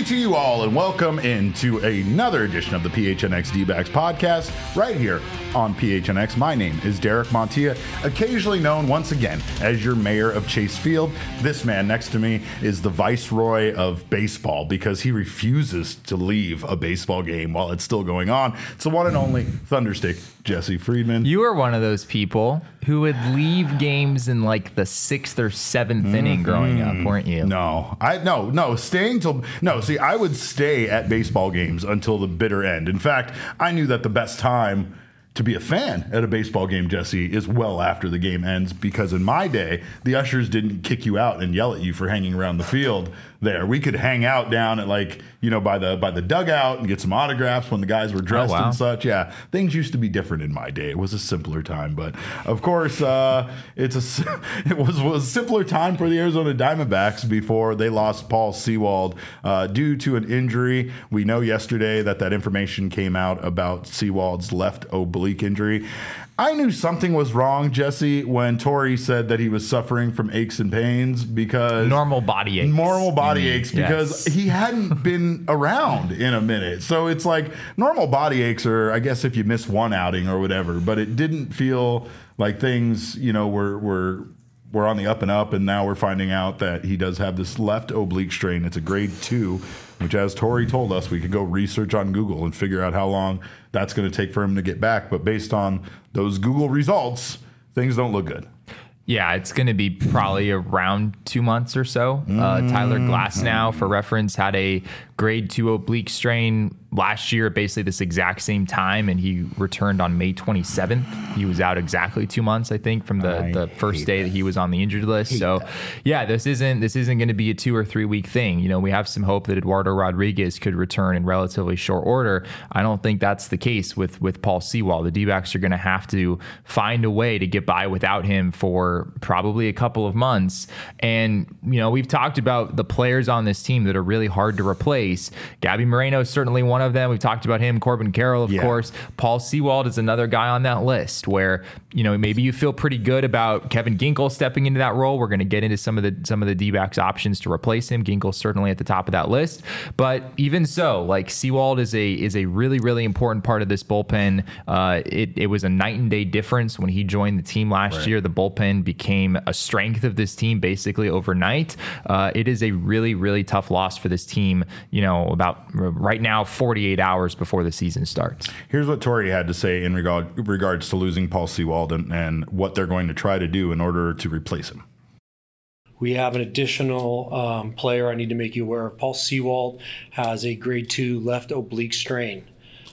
to you all, and welcome into another edition of the PHNX D-Backs podcast right here on PHNX. My name is Derek Montilla, occasionally known once again as your mayor of Chase Field. This man next to me is the viceroy of baseball because he refuses to leave a baseball game while it's still going on. It's the one and only Thunderstick, Jesse Friedman. You were one of those people who would leave games in like the 6th or 7th inning growing up, weren't you? No, see, I would stay at baseball games until the bitter end. In fact, I knew that the best time to be a fan at a baseball game, Jesse, is well after the game ends, because in my day, the ushers didn't kick you out and yell at you for hanging around the field there. We could hang out down at by the dugout and get some autographs when the guys were dressed and such. Yeah, things used to be different in my day. It was a simpler time, but of course, it was a simpler time for the Arizona Diamondbacks before they lost Paul Sewald due to an injury. We know yesterday that information came out about Sewald's left oblique injury. I knew something was wrong, Jesse, when Torey said that he was suffering from aches and pains because normal body aches because he hadn't been around in a minute. So it's like normal body aches are, I guess, if you miss one outing or whatever, but it didn't feel like things, were on the up and up, and now we're finding out that he does have this left oblique strain. It's a grade 2, which, as Torey told us, we could go research on Google and figure out how long that's going to take for him to get back. But based on those Google results, things don't look good. Yeah, it's going to be probably around 2 months or so. Tyler Glasnow, for reference, had a grade 2 oblique strain last year at basically this exact same time, and he returned on May 27th. He was out exactly 2 months, I think, from the first day that he was on the injured list. So, yeah, this isn't going to be a 2 or 3 week thing. We have some hope that Eduardo Rodriguez could return in relatively short order. I don't think that's the case with Paul Sewald. The D-backs are going to have to find a way to get by without him for probably a couple of months. And, we've talked about the players on this team that are really hard to replace. Gabby Moreno is certainly one of them. We've talked about him. Corbin Carroll, of course. Paul Sewald is another guy on that list where, maybe you feel pretty good about Kevin Ginkel stepping into that role. We're going to get into some of the D-backs options to replace him. Ginkel's certainly at the top of that list. But even so, Sewald is a really, really important part of this bullpen. It was a night and day difference when he joined the team last year. The bullpen became a strength of this team basically overnight. It is a really, really tough loss for this team, about right now, 48 hours before the season starts. Here's what Torey had to say in regards to losing Paul Sewald and what they're going to try to do in order to replace him. We have an additional player I need to make you aware of. Paul Sewald has a grade 2 left oblique strain.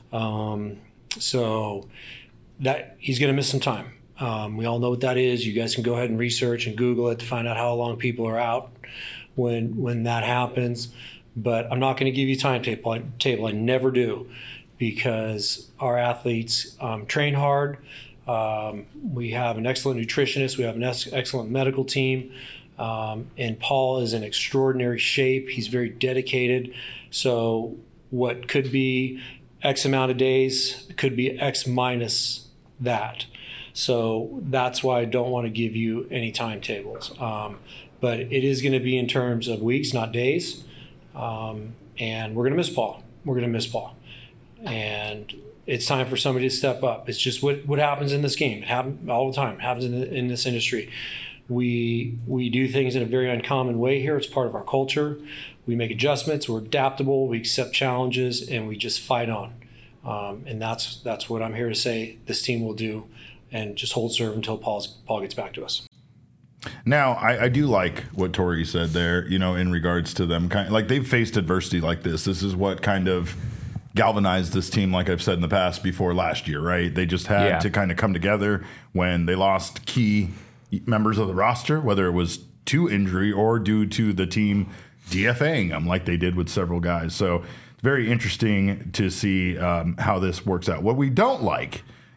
So that he's going to miss some time. We all know what that is. You guys can go ahead and research and Google it to find out how long people are out when that happens. But I'm not going to give you a timetable. I never do, because our athletes train hard. We have an excellent nutritionist. We have an excellent medical team. And Paul is in extraordinary shape. He's very dedicated. So what could be X amount of days could be X minus that. So that's why I don't want to give you any timetables. But it is going to be in terms of weeks, not days. And we're going to miss Paul. And it's time for somebody to step up. It's just what happens in this game. It happens all the time. It happens in this industry. We do things in a very uncommon way here. It's part of our culture. We make adjustments. We're adaptable. We accept challenges, and we just fight on. And that's what I'm here to say this team will do, and just hold serve until Paul gets back to us. Now, I do like what Torey said there, in regards to them. They've faced adversity like this. This is what kind of galvanized this team, like I've said in the past, before last year, right? They just had to kind of come together when they lost key members of the roster, whether it was to injury or due to the team DFAing them like they did with several guys. So it's very interesting to see how this works out. What we don't like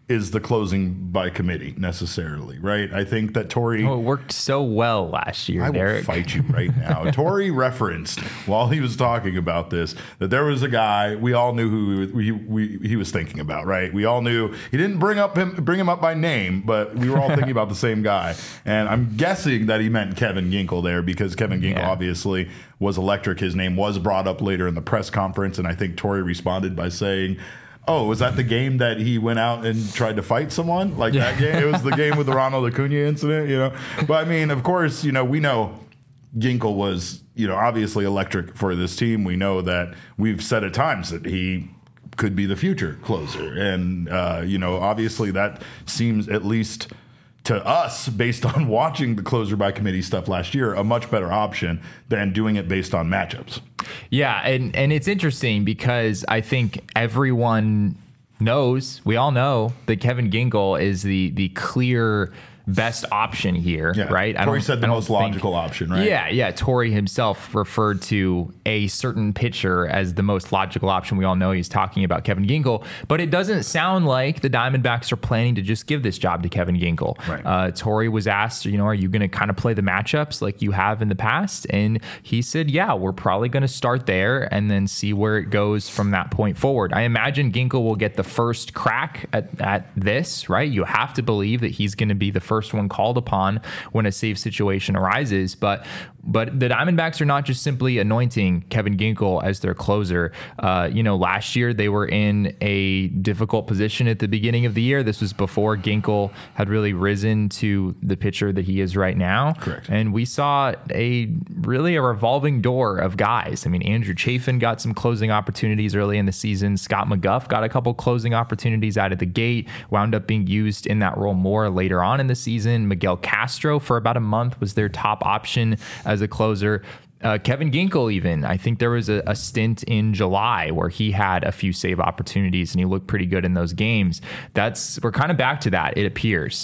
is the closing by committee necessarily, right? I think that Torey... Oh, it worked so well last year, I will Derek. fight you right now. Torey referenced while he was talking about this that there was a guy we all knew who he was thinking about, right? We all knew he didn't bring him up by name, but we were all thinking about the same guy. And I'm guessing that he meant Kevin Ginkel there because Kevin Ginkel obviously was electric. His name was brought up later in the press conference, and I think Torey responded by saying, "Oh, was that the game that he went out and tried to fight someone? Like that game? It was the game with the Ronald Acuna incident, you know?" But I mean, of course, you know, we know Ginkel was, you know, obviously electric for this team. We know that we've said at times that he could be the future closer. And, you know, obviously that seems, at least to us, based on watching the closer by committee stuff last year, a much better option than doing it based on matchups. Yeah, and it's interesting because I think everyone knows, we all know that Kevin Ginkel is the clear best option here, right? Torey said the most logical option, right? Yeah. Torey himself referred to a certain pitcher as the most logical option. We all know he's talking about Kevin Ginkel, but it doesn't sound like the Diamondbacks are planning to just give this job to Kevin Ginkel. Right. Torey was asked, you know, are you going to kind of play the matchups like you have in the past? And he said, yeah, we're probably going to start there and then see where it goes from that point forward. I imagine Ginkel will get the first crack at this, right? You have to believe that he's going to be the first one called upon when a safe situation arises. But the Diamondbacks are not just simply anointing Kevin Ginkel as their closer. You know, last year they were in a difficult position at the beginning of the year. This was before Ginkel had really risen to the pitcher that he is right now. Correct. And we saw a revolving door of guys. I mean, Andrew Chafin got some closing opportunities early in the season. Scott McGough got a couple closing opportunities out of the gate, wound up being used in that role more later on in the season. Miguel Castro for about a month was their top option as a closer. Kevin Ginkel, even, I think there was a stint in July where he had a few save opportunities and he looked pretty good in those games. We're kind of back to that, it appears.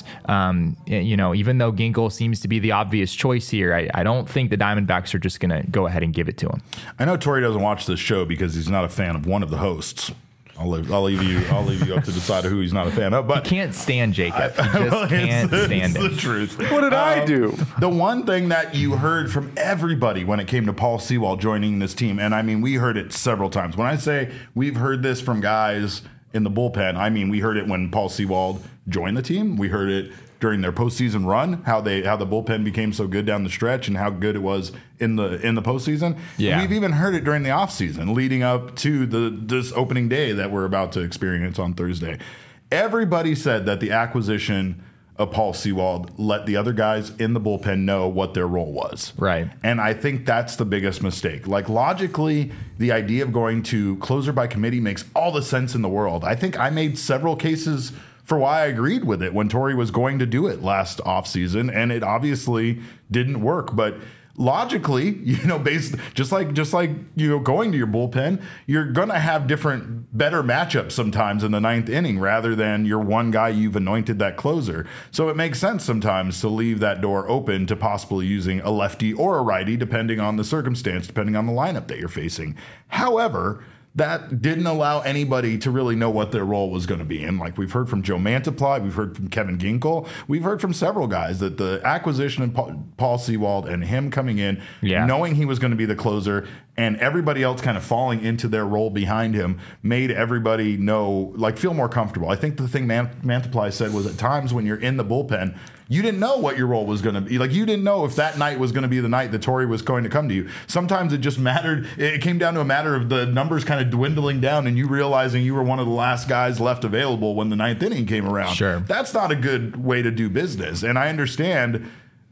You know, even though Ginkel seems to be the obvious choice here, I don't think the Diamondbacks are just going to go ahead and give it to him. I know Torey doesn't watch this show because he's not a fan of one of the hosts. I'll leave you up to decide who he's not a fan of. But he can't stand Jacob. He just can't stand the it. truth. What did I do? The one thing that you heard from everybody when it came to Paul Sewald joining this team, and I mean, we heard it several times. When I say we've heard this from guys in the bullpen, I mean, we heard it when Paul Sewald joined the team. We heard it during their postseason run, how the bullpen became so good down the stretch and how good it was in the postseason. Yeah. We've even heard it during the offseason leading up to this opening day that we're about to experience on Thursday. Everybody said that the acquisition of Paul Sewald let the other guys in the bullpen know what their role was. Right. And I think that's the biggest mistake. Like, logically, the idea of going to closer by committee makes all the sense in the world. I think I made several cases for why I agreed with it when Torey was going to do it last offseason, and it obviously didn't work. But logically, you know, just like you know, going to your bullpen, you're gonna have better matchups sometimes in the ninth inning rather than your one guy you've anointed that closer. So it makes sense sometimes to leave that door open to possibly using a lefty or a righty, depending on the circumstance, depending on the lineup that you're facing. However, that didn't allow anybody to really know what their role was going to be. And like we've heard from Joe Mantiply, we've heard from Kevin Ginkel, we've heard from several guys that the acquisition of Paul Sewald and him coming in, knowing he was going to be the closer, and everybody else kind of falling into their role behind him made everybody feel more comfortable. I think the thing Mantiply said was at times when you're in the bullpen, you didn't know what your role was going to be. Like, you didn't know if that night was going to be the night that Torey was going to come to you. Sometimes it just mattered. It came down to a matter of the numbers kind of dwindling down and you realizing you were one of the last guys left available when the ninth inning came around. Sure. That's not a good way to do business. And I understand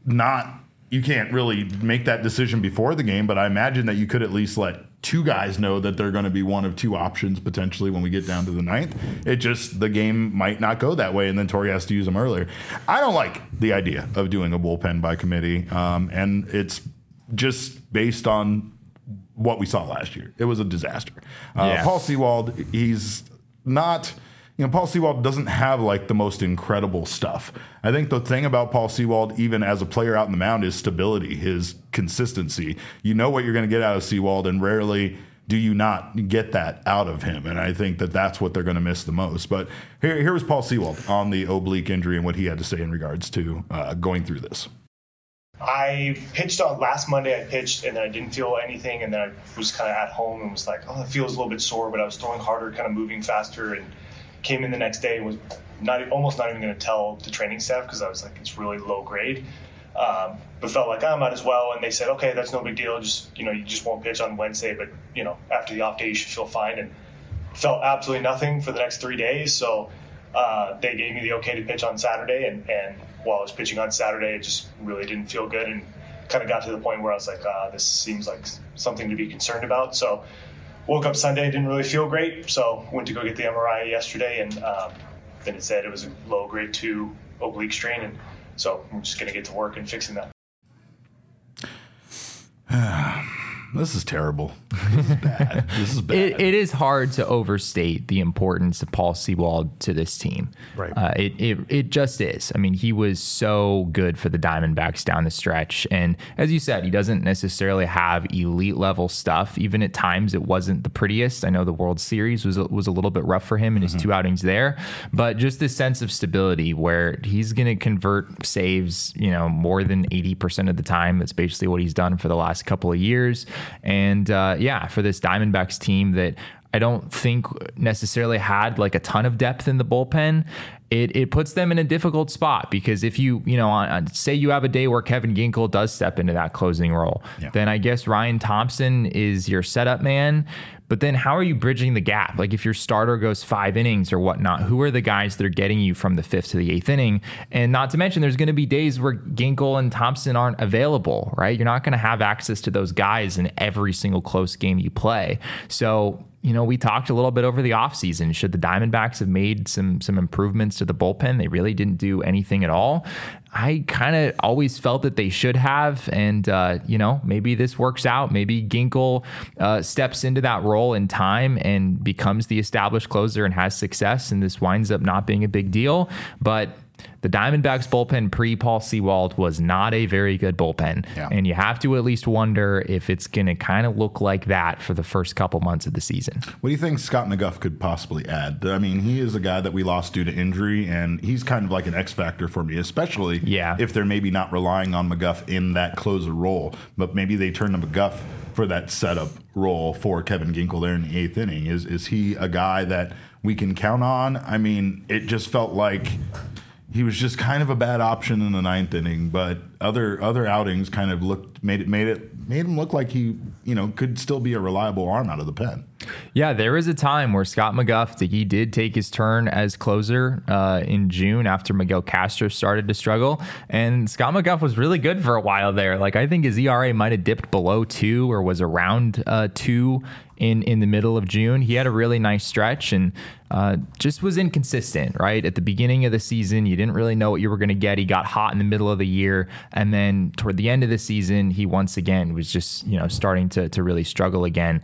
you can't really make that decision before the game, but I imagine that you could at least let two guys know that they're going to be one of two options potentially when we get down to the ninth. The game might not go that way, and then Torey has to use them earlier. I don't like the idea of doing a bullpen by committee, and it's just based on what we saw last year. It was a disaster. Paul Sewald, he's not... You know, Paul Sewald doesn't have like the most incredible stuff. I think the thing about Paul Sewald, even as a player out in the mound, is stability, his consistency. You know what you're going to get out of Sewald, and rarely do you not get that out of him? And I think that that's what they're going to miss the most. But here was Paul Sewald on the oblique injury and what he had to say in regards to going through this. I pitched on last Monday. I pitched and then I didn't feel anything, and then I was kind of at home and was like, oh, it feels a little bit sore, but I was throwing harder, kind of moving faster, and came in the next day and was almost not even going to tell the training staff because I was like, it's really low grade, but felt like I might as well. And they said, okay, that's no big deal. Just you just won't pitch on Wednesday, but after the off day you should feel fine. And felt absolutely nothing for the next 3 days. So they gave me the okay to pitch on Saturday, and while I was pitching on Saturday, it just really didn't feel good and kind of got to the point where I was like, this seems like something to be concerned about. So woke up Sunday, didn't really feel great, so went to go get the MRI yesterday, and then it said it was a low grade 2 oblique strain, and so I'm just going to get to work and fixing that. This is terrible. This is bad. This is bad. It is hard to overstate the importance of Paul Sewald to this team. Right. It just is. I mean, he was so good for the Diamondbacks down the stretch. And as you said, he doesn't necessarily have elite level stuff. Even at times, it wasn't the prettiest. I know the World Series was a little bit rough for him in his 2 outings there. But just this sense of stability where he's going to convert saves, more than 80% of the time. That's basically what he's done for the last couple of years. And for this Diamondbacks team that I don't think necessarily had like a ton of depth in the bullpen, it puts them in a difficult spot because if you say you have a day where Kevin Ginkel does step into that closing role, then I guess Ryan Thompson is your setup man. But then how are you bridging the gap? Like if your starter goes 5 innings or whatnot, who are the guys that are getting you from the 5th to the 8th inning? And not to mention, there's going to be days where Ginkel and Thompson aren't available, right? You're not going to have access to those guys in every single close game you play. So, we talked a little bit over the offseason. Should the Diamondbacks have made some improvements to the bullpen? They really didn't do anything at all. I kind of always felt that they should have. And, maybe this works out. Maybe Ginkel steps into that role in time and becomes the established closer and has success. And this winds up not being a big deal. But the Diamondbacks bullpen pre-Paul Sewald was not a very good bullpen. Yeah. And you have to at least wonder if it's going to kind of look like that for the first couple months of the season. What do you think Scott McGough could possibly add? I mean, he is a guy that we lost due to injury, and he's kind of like an X factor for me, especially if they're maybe not relying on McGough in that closer role, but maybe they turn to McGough for that setup role for Kevin Ginkel there in the 8th inning. Is he a guy that we can count on? I mean, it just felt like he was just kind of a bad option in the 9th inning, but other outings kind of made him look like he could still be a reliable arm out of the pen. Yeah, there was a time where Scott McGough, he did take his turn as closer in June after Miguel Castro started to struggle, and Scott McGough was really good for a while there. Like I think his ERA might have dipped below 2 or was around 2 in the middle of June. He had a really nice stretch and just was inconsistent, right? At the beginning of the season, you didn't really know what you were going to get. He got hot in the middle of the year. And then toward the end of the season, he once again was just, starting to really struggle again.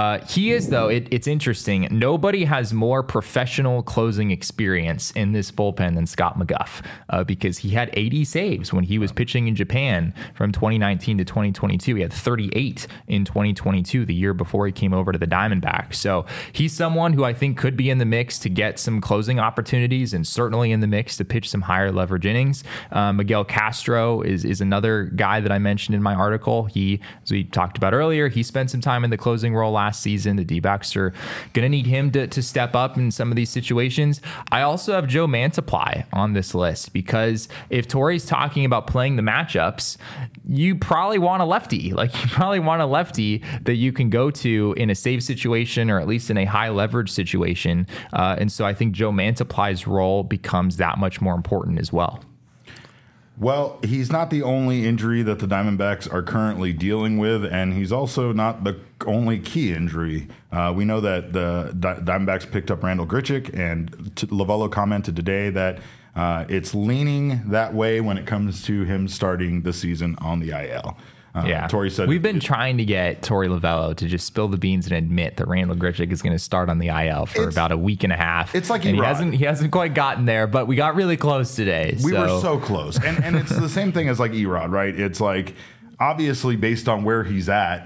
He is, though, it's interesting. Nobody has more professional closing experience in this bullpen than Scott McGough because he had 80 saves when he was pitching in Japan from 2019 to 2022. He had 38 in 2022, the year before he came over to the Diamondbacks. So he's someone who I think could be in the mix to get some closing opportunities and certainly in the mix to pitch some higher leverage innings. Miguel Castro is another guy that I mentioned in my article. As we talked about earlier, he spent some time in the closing role last season. The D-backs are going to need him to step up in some of these situations. I also have Joe Mantiply on this list because if Torey's talking about playing the matchups, you probably want a lefty. Like you probably want a lefty that you can go to in a save situation or at least in a high leverage situation. And so I think Joe Mantiply's role becomes that much more important as well. Well, he's not the only injury that the Diamondbacks are currently dealing with, and he's also not the only key injury. We know that the Diamondbacks picked up Randal Grichuk, and Lovello commented today that it's leaning that way when it comes to him starting the season on the IL. Torey said we've been trying to get Torey Lovello to just spill the beans and admit that Randal Grichuk is going to start on the IL for about a week and a half. It's like he hasn't quite gotten there, but we got really close today. We were so close, and it's the same thing as like Erod, right? It's like obviously based on where he's at,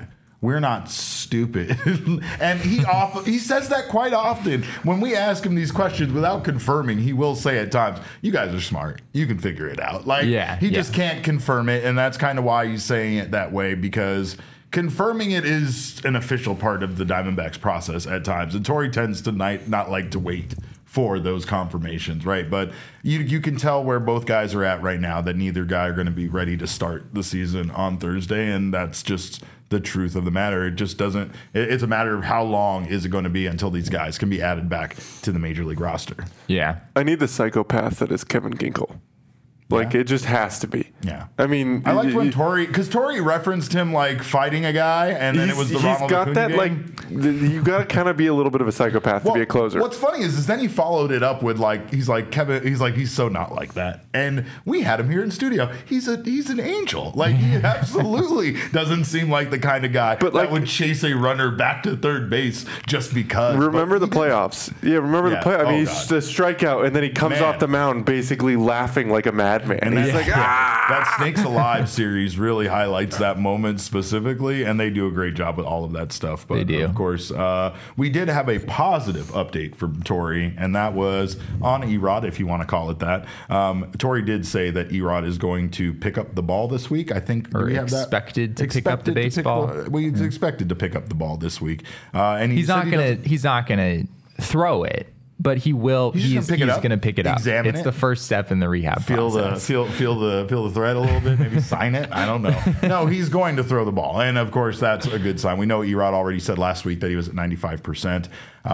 we're not stupid. And he says that quite often. When we ask him these questions without confirming, he will say at times, you guys are smart. You can figure it out. Like, he just can't confirm it. And that's kind of why he's saying it that way, because confirming it is an official part of the Diamondbacks process at times. And Torey tends to not like to wait for those confirmations, right? But you can tell where both guys are at right now, that neither guy are going to be ready to start the season on Thursday, and that's just the truth of the matter. It just doesn't. It's a matter of how long is it going to be until these guys can be added back to the major league roster. Yeah, I need the psychopath that is Kevin Ginkel. Like, it just has to be. Yeah. I mean, I liked when because Torey referenced him like fighting a guy, and then it was the Ronald got Acuna that game. you got to kind of be a little bit of a psychopath to be a closer. What's funny is then he followed it up with he's like Kevin. He's so not like that, and we had him here in studio. He's an angel. Like, he absolutely doesn't seem like the kind of guy that would chase a runner back to third base just because. Remember the playoffs? Yeah, remember the playoffs. I mean, he's the strikeout, and then he comes off the mound basically laughing like a madman. And he's like, that Snakes Alive series really highlights that moment specifically, and they do a great job with all of that stuff. But they do. Of course, we did have a positive update from Torey, and that was on Erod, if you want to call it that. Torey did say that Erod is going to pick up the ball this week. I think expected to pick up the baseball. He's expected to pick up the ball this week, and he's not gonna throw it. But he will. He's going to pick it up. Examine it's the first step in the rehab process. Feel the thread a little bit. Maybe sign it. I don't know. No, he's going to throw the ball, and of course that's a good sign. We know Erod already said last week that he was at 95%,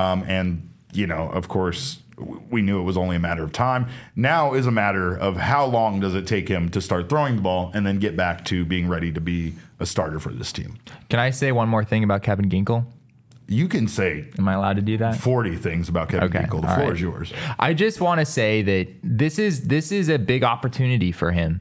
and of course we knew it was only a matter of time. Now is a matter of how long does it take him to start throwing the ball and then get back to being ready to be a starter for this team. Can I say one more thing about Kevin Ginkel? You can say. Am I allowed to do that? 40 things about Kevin Ginkel. The floor is yours. I just want to say that this is a big opportunity for him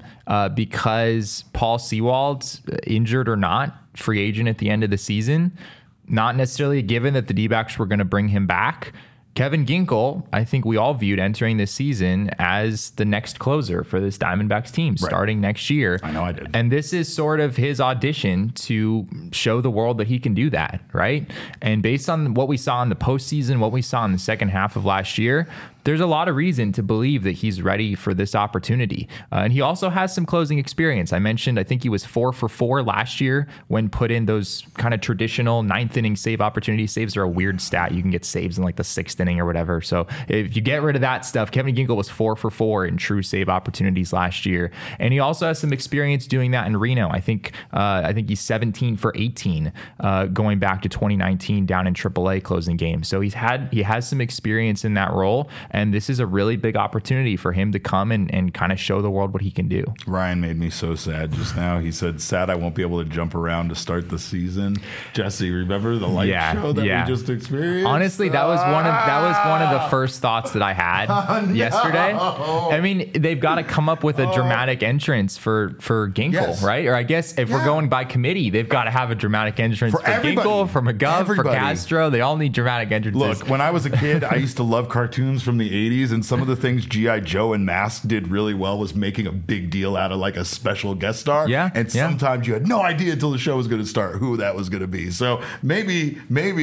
because Paul Sewald's, injured or not, free agent at the end of the season. Not necessarily a given that the D-backs were going to bring him back. Kevin Ginkel, I think we all viewed entering this season as the next closer for this Diamondbacks team starting next year. I know I did. And this is sort of his audition to show the world that he can do that, right? And based on what we saw in the postseason, what we saw in the second half of last year, there's a lot of reason to believe that he's ready for this opportunity. And he also has some closing experience. I mentioned, I think he was 4 for 4 last year when put in those kind of traditional ninth inning save opportunities. Saves are a weird stat. You can get saves in like the sixth inning or whatever. So if you get rid of that stuff, Kevin Ginkel was 4 for 4 in true save opportunities last year. And he also has some experience doing that in Reno. I think he's 17 for 18 going back to 2019 down in AAA closing games. So he has some experience in that role. And this is a really big opportunity for him to come and kind of show the world what he can do. Ryan made me so sad just now. He said, sad I won't be able to jump around to start the season. Jesse, remember the light show that we just experienced? Honestly, that was one of the first thoughts that I had yesterday. I mean, they've got to come up with a dramatic entrance for Ginkel, right? Or I guess if we're going by committee, they've got to have a dramatic entrance for Ginkel, for McGovern, for Castro. They all need dramatic entrances. Look, when I was a kid, I used to love cartoons from the 80s, and some of the things G.I. Joe and Mask did really well was making a big deal out of like a special guest star. And sometimes you had no idea until the show was going to start who that was going to be. So maybe,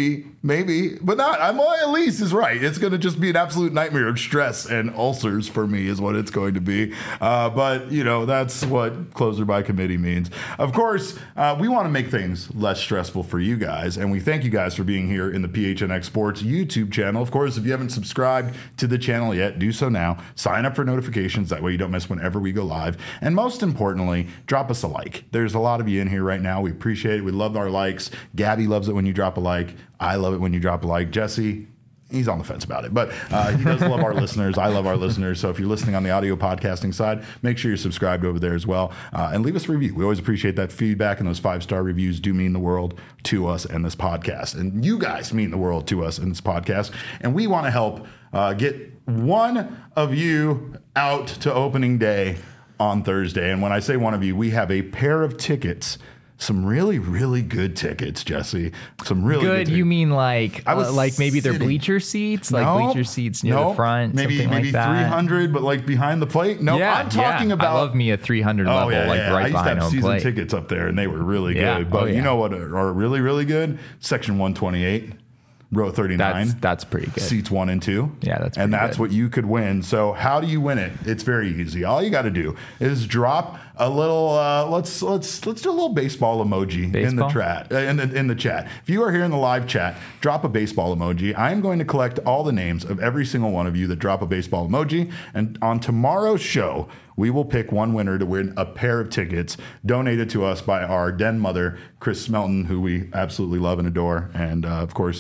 but not. Elise is right. It's going to just be an absolute nightmare of stress and ulcers for me is what it's going to be. But that's what closer by committee means. Of course, we want to make things less stressful for you guys, and we thank you guys for being here in the PHNX Sports YouTube channel. Of course, if you haven't subscribed to the channel yet, do so now. Sign up for notifications. That way you don't miss whenever we go live. And most importantly, drop us a like. There's a lot of you in here right now. We appreciate it. We love our likes. Gabby loves it when you drop a like. I love it when you drop a like. Jesse, he's on the fence about it, but he does love our listeners. I love our listeners. So if you're listening on the audio podcasting side, make sure you're subscribed over there as well. And leave us a review. We always appreciate that feedback, and those 5-star reviews do mean the world to us and this podcast. And you guys mean the world to us and this podcast. And we want to help get one of you out to opening day on Thursday. And when I say one of you, we have a pair of tickets some really, really good tickets, Jesse. Some really good tickets. You mean like maybe their bleacher seats? Like bleacher seats near the front? Maybe like that? 300, but like behind the plate? No, I'm talking about... I love me a 300 level, right behind home plate. I used to have season tickets up there, and they were really good. But you know what are really, really good? Section 128. Row 39. That's pretty good. Seats 1 and 2. Yeah, that's what you could win. So how do you win it? It's very easy. All you got to do is drop a little. Let's do a little baseball emoji in the chat. In the chat. If you are here in the live chat, drop a baseball emoji. I am going to collect all the names of every single one of you that drop a baseball emoji, and on tomorrow's show, we will pick one winner to win a pair of tickets donated to us by our den mother, Chris Smelton, who we absolutely love and adore. And of course,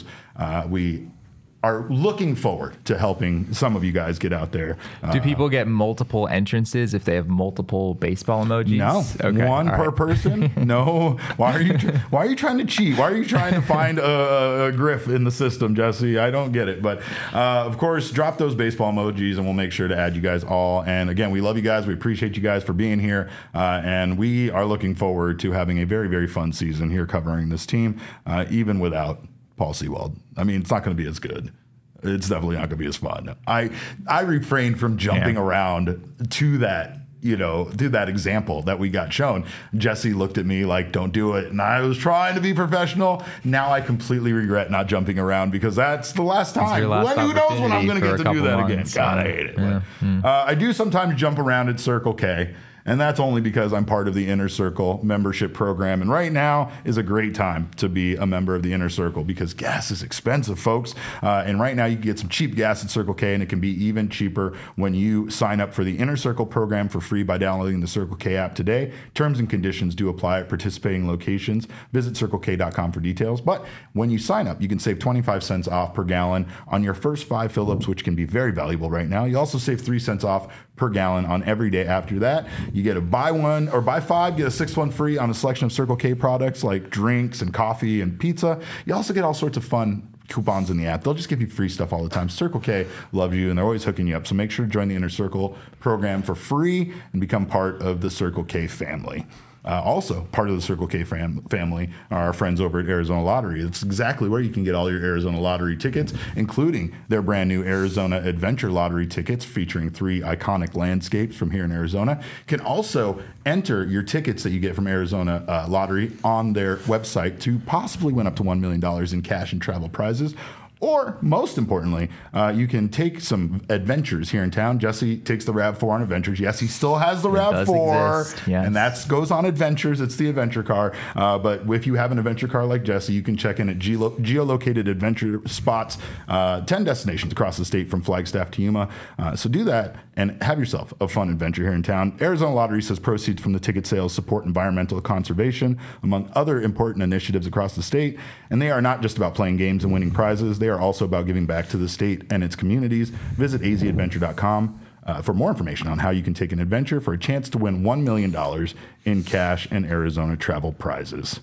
we are looking forward to helping some of you guys get out there. Do people get multiple entrances if they have multiple baseball emojis? No, okay. One per person. No. Why are you trying to cheat? Why are you trying to find a grift in the system, Jesse? I don't get it. But of course, drop those baseball emojis, and we'll make sure to add you guys all. And again, we love you guys. We appreciate you guys for being here, and we are looking forward to having a very, very fun season here covering this team, even without Paul Sewald. I mean, it's not going to be as good. It's definitely not going to be as fun. I refrained from jumping around to that, to that example that we got shown. Jesse looked at me like, don't do it. And I was trying to be professional. Now I completely regret not jumping around because that's the last time. Who knows when I'm going to get to do that again? God, I hate it. Yeah. I do sometimes jump around at Circle K. And that's only because I'm part of the Inner Circle membership program. And right now is a great time to be a member of the Inner Circle because gas is expensive, folks. And right now you can get some cheap gas at Circle K, and it can be even cheaper when you sign up for the Inner Circle program for free by downloading the Circle K app today. Terms and conditions do apply at participating locations. Visit CircleK.com for details. But when you sign up, you can save 25 cents off per gallon on your first 5 fill-ups, which can be very valuable right now. You also save 3 cents off per gallon on every day after that. You get a buy 1 or buy 5, get a 6th one free on a selection of Circle K products like drinks and coffee and pizza. You also get all sorts of fun coupons in the app. They'll just give you free stuff all the time. Circle K loves you, and they're always hooking you up. So make sure to join the Inner Circle program for free and become part of the Circle K family. Also, part of the Circle K family are our friends over at Arizona Lottery. It's exactly where you can get all your Arizona Lottery tickets, including their brand new Arizona Adventure Lottery tickets featuring 3 iconic landscapes from here in Arizona. You can also enter your tickets that you get from Arizona Lottery on their website to possibly win up to $1 million in cash and travel prizes. Or, most importantly, you can take some adventures here in town. Jesse takes the RAV4 on adventures. Yes, he still has the RAV4, and that goes on adventures. It's the adventure car. But if you have an adventure car like Jesse, you can check in at geolocated adventure spots, 10 destinations across the state from Flagstaff to Yuma. So do that and have yourself a fun adventure here in town. Arizona Lottery says proceeds from the ticket sales support environmental conservation, among other important initiatives across the state. And they are not just about playing games and winning prizes. They are also about giving back to the state and its communities. Visit azadventure.com for more information on how you can take an adventure for a chance to win $1 million in cash and Arizona travel prizes.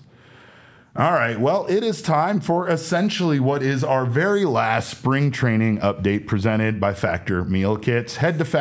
All right, well, it is time for essentially what is our very last spring training update presented by Factor Meal Kits. Head to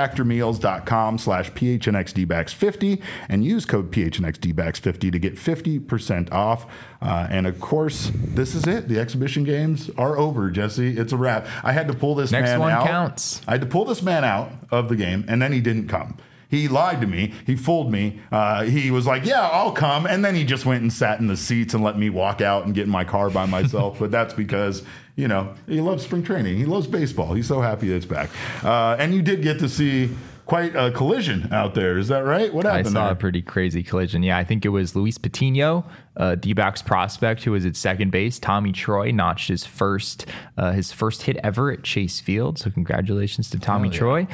factormeals.com/PHNXDBacks50 and use code PHNXDBacks50 to get 50% off. And of course, this is it. The exhibition games are over, Jesse. It's a wrap. I had to pull this man out. Next one counts. I had to pull this man out of the game, and then he didn't come. He lied to me. He fooled me. He was like, yeah, I'll come. And then he just went and sat in the seats and let me walk out and get in my car by myself. But that's because, he loves spring training. He loves baseball. He's so happy that it's back. And you did get to see quite a collision out there. Is that right? What happened? I saw a pretty crazy collision. Yeah, I think it was Luis Patino, D-backs prospect who was at second base. Tommy Troy notched his first hit ever at Chase Field. So congratulations to Tommy Troy.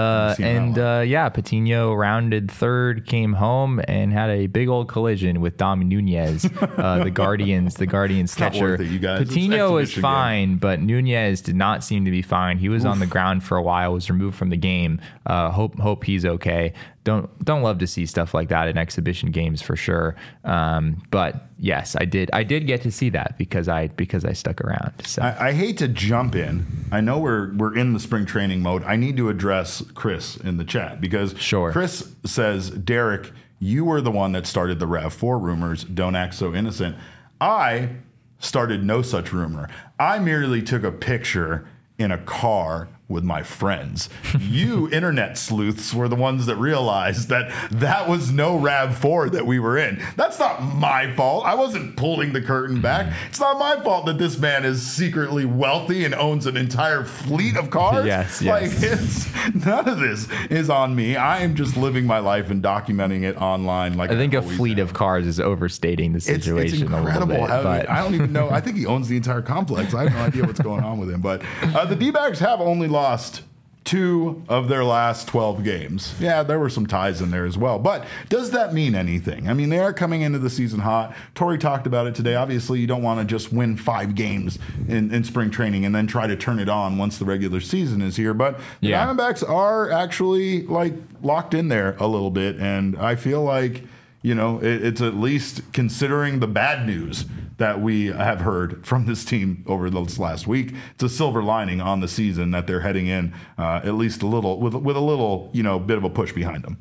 Patino rounded third, came home, and had a big old collision with Dom Nunez, the Guardians catcher. Patino was fine, but Nunez did not seem to be fine. He was on the ground for a while, was removed from the game. Hope he's okay. Don't love to see stuff like that in exhibition games for sure. But yes, I did get to see that because I stuck around. So I hate to jump in. I know we're in the spring training mode. I need to address Chris in the chat because Chris says Derek you were the one that started the RAV4 rumors. Don't act so innocent. I started no such rumor. I merely took a picture in a car with my friends. You internet sleuths were the ones that realized that that was no RAV4 that we were in. That's not my fault. I wasn't pulling the curtain back. It's not my fault that this man is secretly wealthy and owns an entire fleet of cars. Yes. Like, none of this is on me. I am just living my life and documenting it online. Like I think a fleet of cars is overstating the situation. It's incredible. A little bit, I don't even know. I think he owns the entire complex. I have no idea what's going on with him. But the D-backs have only lost 2 of their last 12 games. Yeah, there were some ties in there as well. But does that mean anything? I mean, they are coming into the season hot. Torrey talked about it today. Obviously, you don't want to just win 5 games in spring training and then try to turn it on once the regular season is here. But the Diamondbacks are actually like locked in there a little bit. And I feel like, you know, it's at least considering the bad news that we have heard from this team over this last week. It's a silver lining on the season that they're heading in at least a little with a little, you know, bit of a push behind them.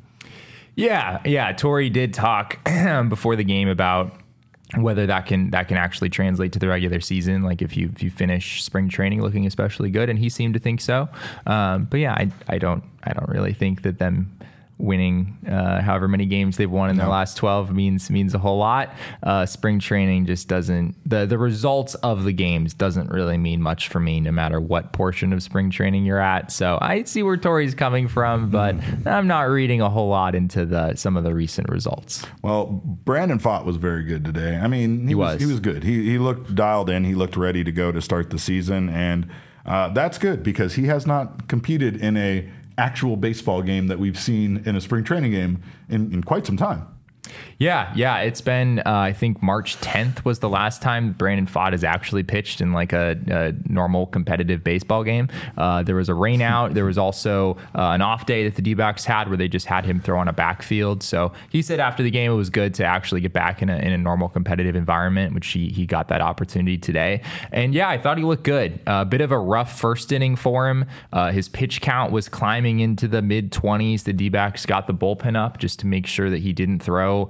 Yeah. Torrey did talk before the game about whether that can actually translate to the regular season, like if you finish spring training looking especially good, and he seemed to think so. But yeah, I don't really think that them winning however many games they've won in their last 12 means a whole lot. Spring training just doesn't, the results of the games doesn't really mean much for me, no matter what portion of spring training you're at. So I see where Torrey's coming from, but I'm not reading a whole lot into some of the recent results. Well, Brandon Pfaadt was very good today. I mean, he was good. He looked dialed in. He looked ready to go to start the season, and that's good because he has not competed in a actual baseball game that we've seen in a spring training game in quite some time. Yeah. It's been, I think March 10th was the last time Brandon Pfaadt has actually pitched in like a normal competitive baseball game. There was a rain out. There was also an off day that the D-backs had where they just had him throw on a backfield. So he said after the game it was good to actually get back in a normal competitive environment, which he got that opportunity today. And yeah, I thought he looked good. A bit of a rough first inning for him. His pitch count was climbing into the mid-20s. The D-backs got the bullpen up just to make sure that he didn't throw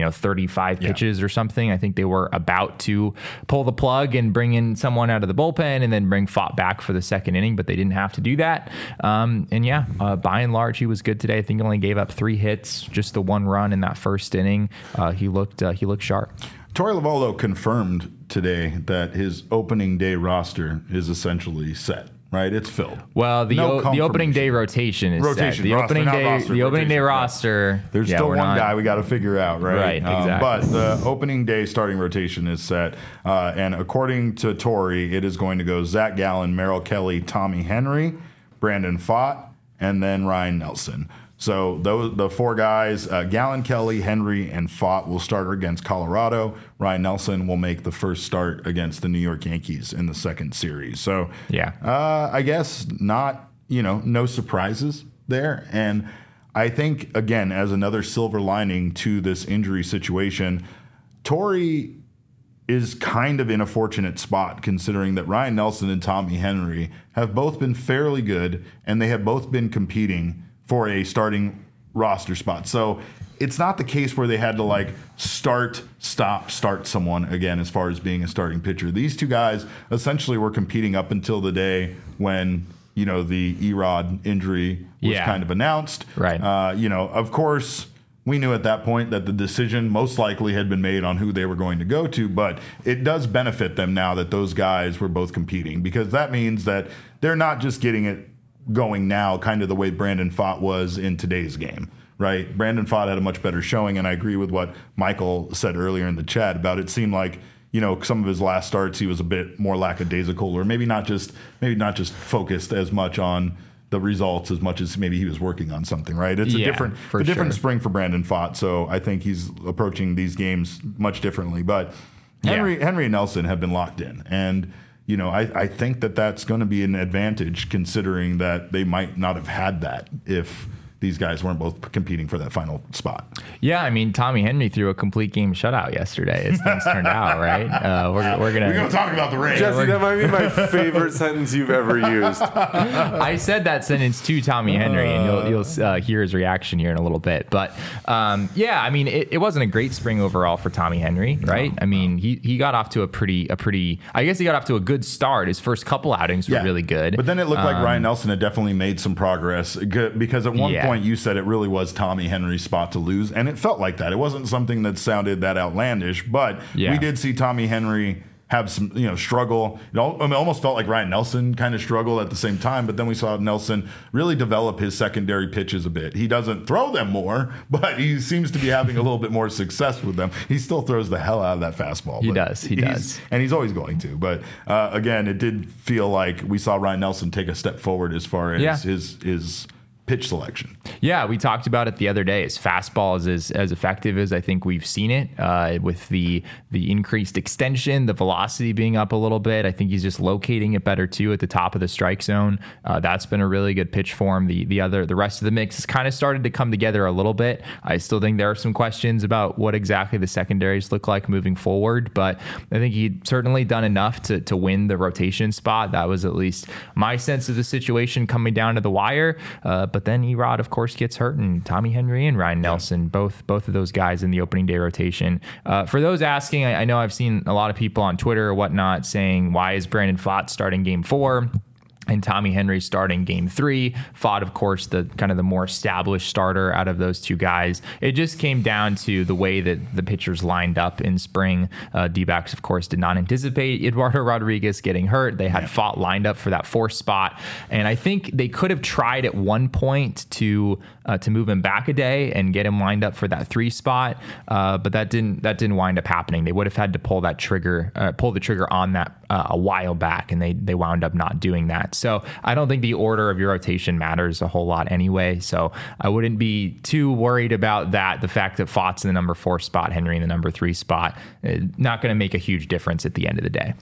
35 pitches or something. I think they were about to pull the plug and bring in someone out of the bullpen and then bring Pfaadt back for the second inning, but they didn't have to do that. By and large, he was good today. I think he only gave up 3 hits, just the 1 run in that first inning. He looked sharp. Torey Lovullo confirmed today that his opening day roster is essentially set. Right, it's filled. Well, the opening day rotation is set. The opening day roster. There's still one guy we got to figure out, right? Right, exactly. But the opening day starting rotation is set, and according to Torrey, it is going to go Zach Gallen, Merrill Kelly, Tommy Henry, Brandon Pfaadt, and then Ryan Nelson. So the 4 guys, Gallen, Kelly, Henry, and Pfaadt will start against Colorado. Ryan Nelson will make the first start against the New York Yankees in the second series. So I guess no surprises there. And I think, again, as another silver lining to this injury situation, Torrey is kind of in a fortunate spot considering that Ryan Nelson and Tommy Henry have both been fairly good, and they have both been competing for a starting roster spot. So it's not the case where they had to start someone again as far as being a starting pitcher. These 2 guys essentially were competing up until the day when, the Erod injury was kind of announced. Right. Of course, we knew at that point that the decision most likely had been made on who they were going to go to, but it does benefit them now that those guys were both competing, because that means that they're not just getting it going now, kind of the way Brandon Pfaadt was in today's game, right? Brandon Pfaadt had a much better showing, and I agree with what Michael said earlier in the chat about it seemed like, some of his last starts he was a bit more lackadaisical, or maybe not just focused as much on the results as much as maybe he was working on something, right? It's a different spring for Brandon Pfaadt, so I think he's approaching these games much differently. But Henry and Nelson have been locked in, and I think that that's going to be an advantage considering that they might not have had that if these guys weren't both competing for that final spot. Yeah, I mean, Tommy Henry threw a complete game shutout yesterday as things turned out, right? We're gonna talk about the Rays. Jesse, that might be my favorite sentence you've ever used. I said that sentence to Tommy Henry, and you'll hear his reaction here in a little bit. But yeah, I mean, it wasn't a great spring overall for Tommy Henry, right? I mean, he got off to a pretty. I guess he got off to a good start. His first couple outings were really good, but then it looked like Ryan Nelson had definitely made some progress because at one point you said it really was Tommy Henry's spot to lose, and it felt like that. It wasn't something that sounded that outlandish, but we did see Tommy Henry have some, struggle. It almost felt like Ryan Nelson kind of struggled at the same time, but then we saw Nelson really develop his secondary pitches a bit. He doesn't throw them more, but he seems to be having a little bit more success with them. He still throws the hell out of that fastball. He does. And he's always going to. But again, it did feel like we saw Ryan Nelson take a step forward as far as his pitch selection. Yeah, we talked about it the other day. His fastball is as effective as I think we've seen it, with the increased extension, the velocity being up a little bit. I think he's just locating it better too at the top of the strike zone. That's been a really good pitch for him. The rest of the mix has kind of started to come together a little bit. I still think there are some questions about what exactly the secondaries look like moving forward, but I think he'd certainly done enough to win the rotation spot. That was at least my sense of the situation coming down to the wire. But then Erod, of course, gets hurt, and Tommy Henry and Ryan Nelson, both of those guys in the opening day rotation. For those asking, I know I've seen a lot of people on Twitter or whatnot saying, why is Brandon Pfaadt starting game 4? And Tommy Henry starting game 3. Pfaadt, of course, the kind of the more established starter out of those two guys. It just came down to the way that the pitchers lined up in spring. D-backs, of course, did not anticipate Eduardo Rodriguez getting hurt. They had Pfaadt lined up for that 4th spot. And I think they could have tried at one point to move him back a day and get him lined up for that 3 spot. But that didn't wind up happening. They would have had to pull the trigger on that a while back, and they wound up not doing that. So I don't think the order of your rotation matters a whole lot anyway. So I wouldn't be too worried about that. The fact that Pfaadt's in the number 4 spot, Henry in the number 3 spot, not going to make a huge difference at the end of the day.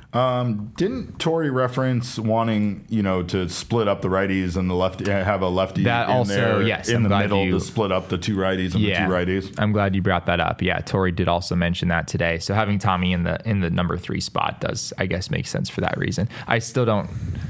Didn't Torey reference wanting, to split up the righties and the lefty, have a lefty that in also, there yes, in the middle to split up the 2 righties and the 2 righties? I'm glad you brought that up. Yeah, Torey did also mention that today. So having Tommy in the number 3 spot does, I guess, make sense for that reason. I still don't.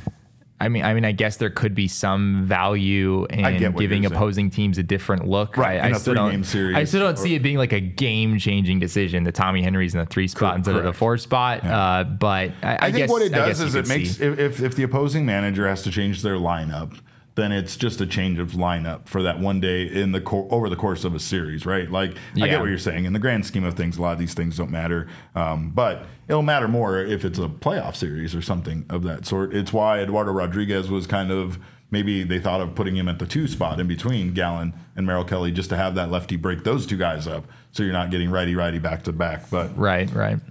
I mean, I guess there could be some value in giving opposing teams a different look. Right, I still don't see it being like a game-changing decision that Tommy Henry's in the 3 spot instead of the 4 spot. Yeah. But I think guess, what it does is it makes if the opposing manager has to change their lineup, then it's just a change of lineup for that one day over the course of a series, right? Like, I get what you're saying. In the grand scheme of things, a lot of these things don't matter. But it'll matter more if it's a playoff series or something of that sort. It's why Eduardo Rodriguez was kind of, maybe they thought of putting him at the 2 spot in between Gallen and Merrill Kelly, just to have that lefty break those 2 guys up, so you're not getting righty back to back. But right.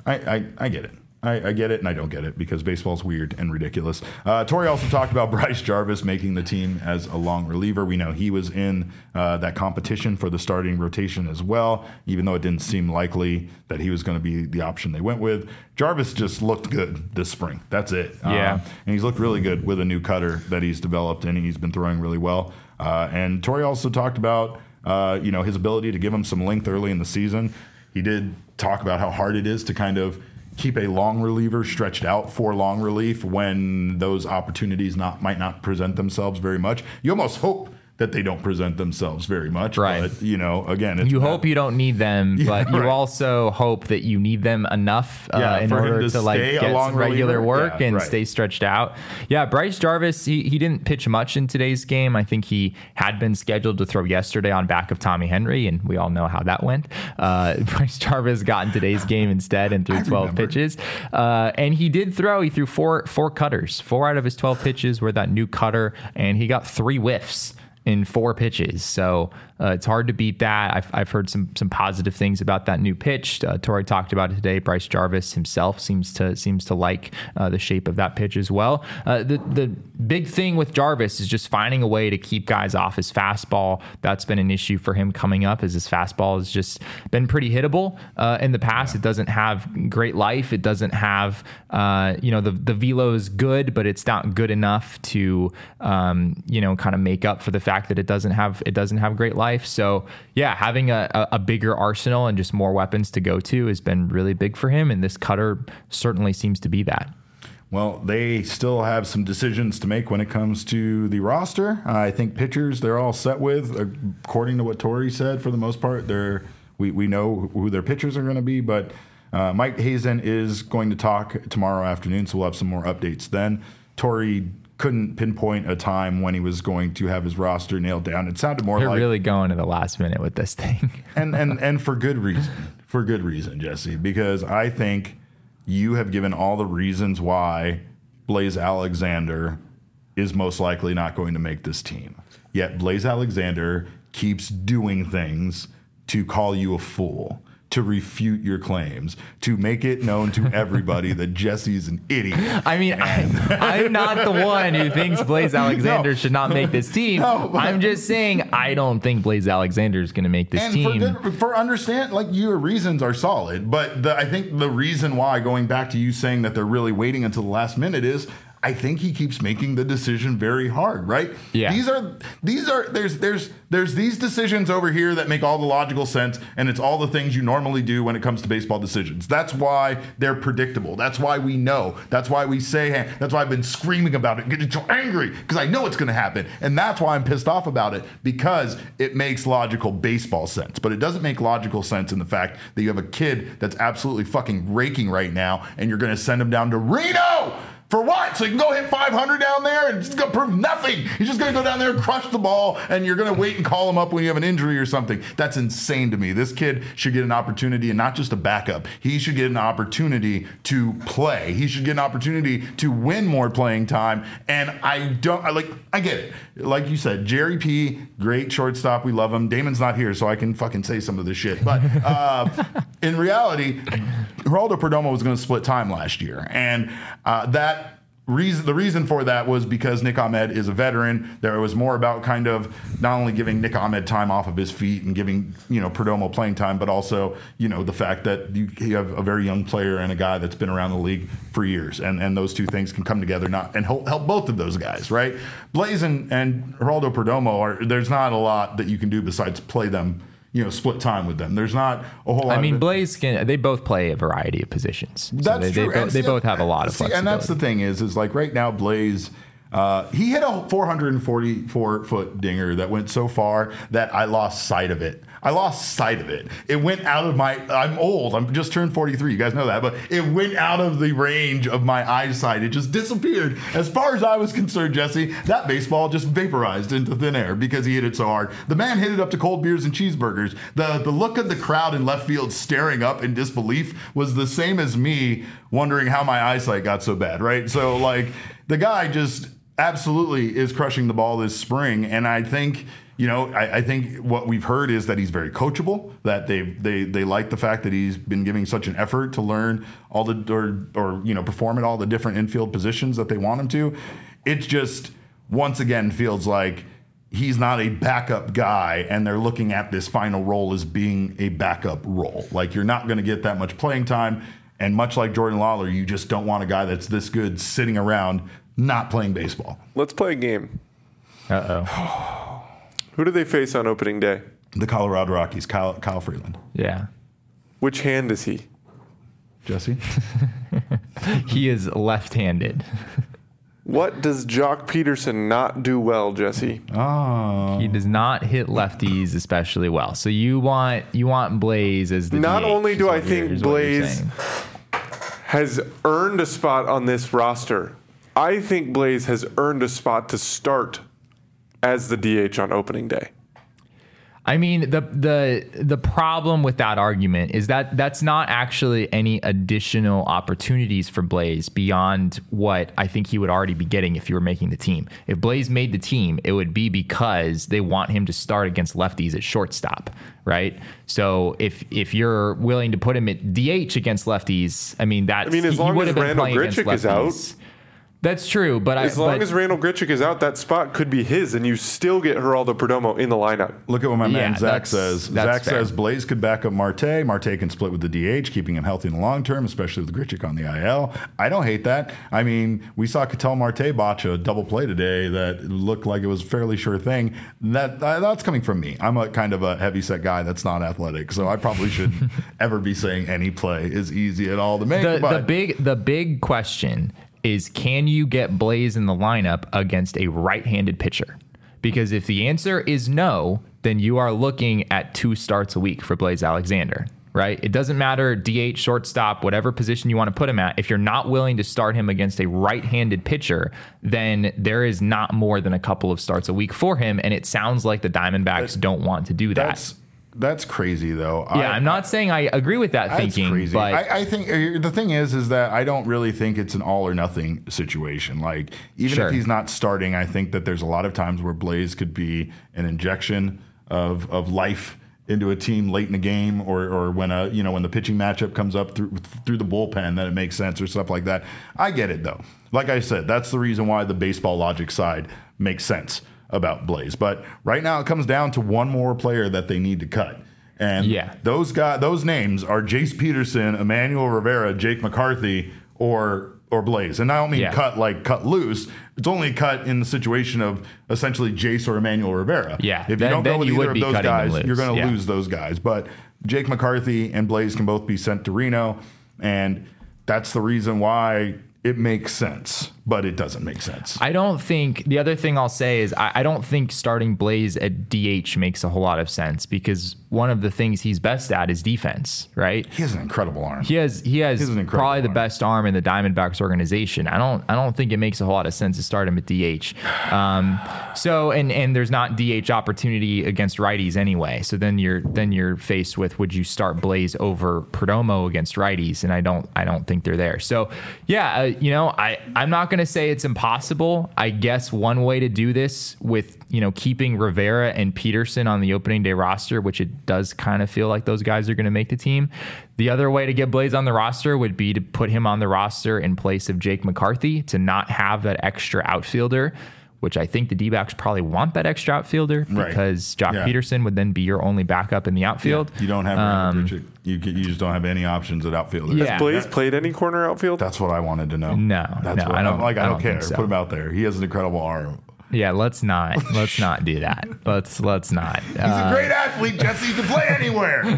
I get it. I get it and I don't get it because baseball's weird and ridiculous. Torey also talked about Bryce Jarvis making the team as a long reliever. We know he was in that competition for the starting rotation as well, even though it didn't seem likely that he was going to be the option they went with. Jarvis just looked good this spring. That's it. Yeah. And he's looked really good with a new cutter that he's developed, and he's been throwing really well. And Torey also talked about his ability to give him some length early in the season. He did talk about how hard it is to kind of keep a long reliever stretched out for long relief when those opportunities might not present themselves very much. You almost hope that they don't present themselves very much. Right. But, again, you hope you don't need them, but you also hope that you need them enough in order to get some regular work and stay stretched out. Yeah, Bryce Jarvis, he didn't pitch much in today's game. I think he had been scheduled to throw yesterday on back of Tommy Henry, and we all know how that went. Bryce Jarvis got in today's game instead and threw 12 pitches. And he did throw. He threw four cutters. 4 out of his 12 pitches were that new cutter, and he got 3 whiffs in 4 pitches. So it's hard to beat that. I've heard some positive things about that new pitch. Torey talked about it today. Bryce Jarvis himself seems to like the shape of that pitch as well. The big thing with Jarvis is just finding a way to keep guys off his fastball. That's been an issue for him coming up, as his fastball has just been pretty hittable in the past. It doesn't have great life. It doesn't have, the velo is good, but it's not good enough to, kind of make up for the fact fact that it doesn't have great life. So yeah, having a bigger arsenal and just more weapons to go to has been really big for him. And this cutter certainly seems to be that. Well, they still have some decisions to make when it comes to the roster. I think pitchers they're all set with, according to what Torey said. For the most part, we know who their pitchers are going to be, but Mike Hazen is going to talk tomorrow afternoon, so we'll have some more updates then. Torey couldn't pinpoint a time when he was going to have his roster nailed down. It sounded more You're like... You're really going to the last minute with this thing. and for good reason. For good reason, Jesse, because I think you have given all the reasons why Blaze Alexander is most likely not going to make this team. Yet Blaze Alexander keeps doing things to call you a fool, to refute your claims, to make it known to everybody that Jesse's an idiot. I mean, I'm not the one who thinks Blaze Alexander should not make this team. No, I'm just saying I don't think Blaze Alexander is going to make this team. For understand, like your reasons are solid, but I think the reason why, going back to you saying that they're really waiting until the last minute is, I think he keeps making the decision very hard, right? Yeah. There's these decisions over here that make all the logical sense, and it's all the things you normally do when it comes to baseball decisions. That's why they're predictable. That's why we know. That's why we say, hey, that's why I've been screaming about it, getting so angry, because I know it's going to happen. And that's why I'm pissed off about it, because it makes logical baseball sense. But it doesn't make logical sense in the fact that you have a kid that's absolutely fucking raking right now, and you're going to send him down to Reno. For what? So you can go hit 500 down there and it's going to prove nothing. He's just going to go down there and crush the ball, and you're going to wait and call him up when you have an injury or something. That's insane to me. This kid should get an opportunity, and not just a backup. He should get an opportunity to play. He should get an opportunity to win more playing time. And I get it. Like you said, Jerry P, great shortstop. We love him. Damon's not here, so I can fucking say some of this shit. But in reality, Geraldo Perdomo was going to split time last year. And the reason for that was because Nick Ahmed is a veteran. There was more about kind of not only giving Nick Ahmed time off of his feet and giving, Perdomo playing time, but also, the fact that you have a very young player and a guy that's been around the league for years. And those two things can come together and help both of those guys, right? Blaze and Geraldo Perdomo, there's not a lot that you can do besides play them, split time with them. There's not a whole lot. I mean, Blaze they both play a variety of positions. That's true. They both have a lot of flexibility. And that's the thing is like right now, Blaze, he hit a 444-foot dinger that went so far that I lost sight of it. It went out of I'm old. I'm just turned 43. You guys know that. But it went out of the range of my eyesight. It just disappeared. As far as I was concerned, Jesse, that baseball just vaporized into thin air because he hit it so hard. The man hit it up to cold beers and cheeseburgers. The look of the crowd in left field staring up in disbelief was the same as me wondering how my eyesight got so bad, right? So, the guy just absolutely is crushing the ball this spring. And I think... I think what we've heard is that he's very coachable, that they like the fact that he's been giving such an effort to learn all the perform at all the different infield positions that they want him to. It just once again feels like he's not a backup guy, and they're looking at this final role as being a backup role. Like, you're not going to get that much playing time, and much like Jordan Lawler, you just don't want a guy that's this good sitting around not playing baseball. Let's play a game. Uh-oh. Who do they face on opening day? The Colorado Rockies, Kyle Freeland. Yeah. Which hand is he? Jesse? He is left-handed. What does Jock Peterson not do well, Jesse? Oh. He does not hit lefties especially well. So you want Blaze as the Not DH, only do I think Blaze has earned a spot on this roster, I think Blaze has earned a spot to start as the DH on opening day. I mean, the problem with that argument is that that's not actually any additional opportunities for Blaze beyond what I think he would already be getting if you were making the team. If Blaze made the team, it would be because they want him to start against lefties at shortstop, right? So if you're willing to put him at DH against lefties, as long as Randall Grichuk is out. That's true, but as long as Randall Grichuk is out, that spot could be his, and you still get Geraldo Perdomo in the lineup. Look at what my man Zach that's says. Zach says Blaze could back up Marte. Marte can split with the DH, keeping him healthy in the long term, especially with Grichuk on the IL. I don't hate that. I mean, we saw Ketel Marte botch a double play today that looked like it was a fairly sure thing. That's coming from me. I'm a kind of a heavyset guy that's not athletic, so I probably shouldn't ever be saying any play is easy at all to make. The big question is, can you get Blaze in the lineup against a right-handed pitcher? Because if the answer is no, then you are looking at 2 starts a week for Blaze Alexander, right? It doesn't matter, DH, shortstop, whatever position you want to put him at. If you're not willing to start him against a right-handed pitcher, then there is not more than a couple of starts a week for him, and it sounds like the Diamondbacks don't want to do that. That's crazy, though. Yeah, I'm not saying I agree with that thinking. Crazy. But I think the thing is that I don't really think it's an all or nothing situation. Like, even if he's not starting, I think that there's a lot of times where Blaze could be an injection of life into a team late in the game, or when when the pitching matchup comes up through the bullpen, that it makes sense or stuff like that. I get it, though. Like I said, that's the reason why the baseball logic side makes sense about Blaze. But right now it comes down to one more player that they need to cut. And those names are Jace Peterson, Emmanuel Rivera, Jake McCarthy, or Blaze. And I don't mean cut loose. It's only cut in the situation of essentially Jace or Emmanuel Rivera. Yeah. If you don't go with either of those guys, you're going to lose those guys. But Jake McCarthy and Blaze can both be sent to Reno, and that's the reason why it makes sense, but it doesn't make sense. I don't think, the other thing I'll say is I don't think starting Blaze at DH makes a whole lot of sense, because one of the things he's best at is defense, right? He has an incredible arm. He has probably the best arm in the Diamondbacks organization. I don't think it makes a whole lot of sense to start him at DH. And there's not DH opportunity against righties anyway. So then you're faced with, would you start Blaze over Perdomo against righties? And I don't think they're there. So yeah, I'm not going to say it's impossible. I guess one way to do this with, keeping Rivera and Peterson on the opening day roster, which it does kind of feel like those guys are going to make the team. The other way to get Blaze on the roster would be to put him on the roster in place of Jake McCarthy, to not have that extra outfielder, which I think the D-backs probably want that extra outfielder, because Jock Peterson would then be your only backup in the outfield. Yeah. You don't have you just don't have any options at outfielder. Has Blaze played any corner outfield? That's what I wanted to know. No, I don't care. So. Put him out there. He has an incredible arm. Yeah, let's not do that. Let's not. He's a great athlete, Jesse. He can play anywhere.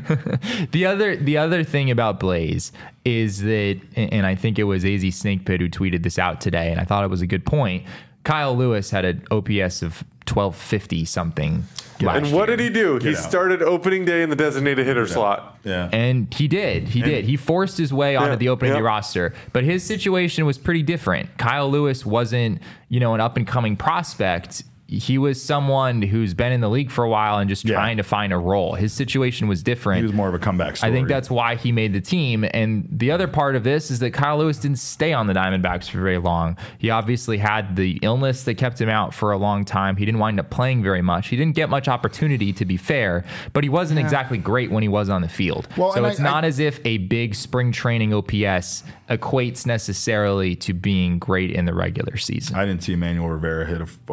The other thing about Blaze is that, and I think it was AZ Snakepit who tweeted this out today, and I thought it was a good point. Kyle Lewis had an OPS of 1250 something. And what did he do? He started opening day in the designated hitter slot. Yeah. And he did. He forced his way onto the opening day roster. But his situation was pretty different. Kyle Lewis wasn't, an up-and-coming prospect. He was someone who's been in the league for a while and just trying to find a role. His situation was different. He was more of a comeback story. I think that's why he made the team. And the other part of this is that Kyle Lewis didn't stay on the Diamondbacks for very long. He obviously had the illness that kept him out for a long time. He didn't wind up playing very much. He didn't get much opportunity, to be fair, but he wasn't exactly great when he was on the field. Well, so it's not as if a big spring training OPS equates necessarily to being great in the regular season. I didn't see Emmanuel Rivera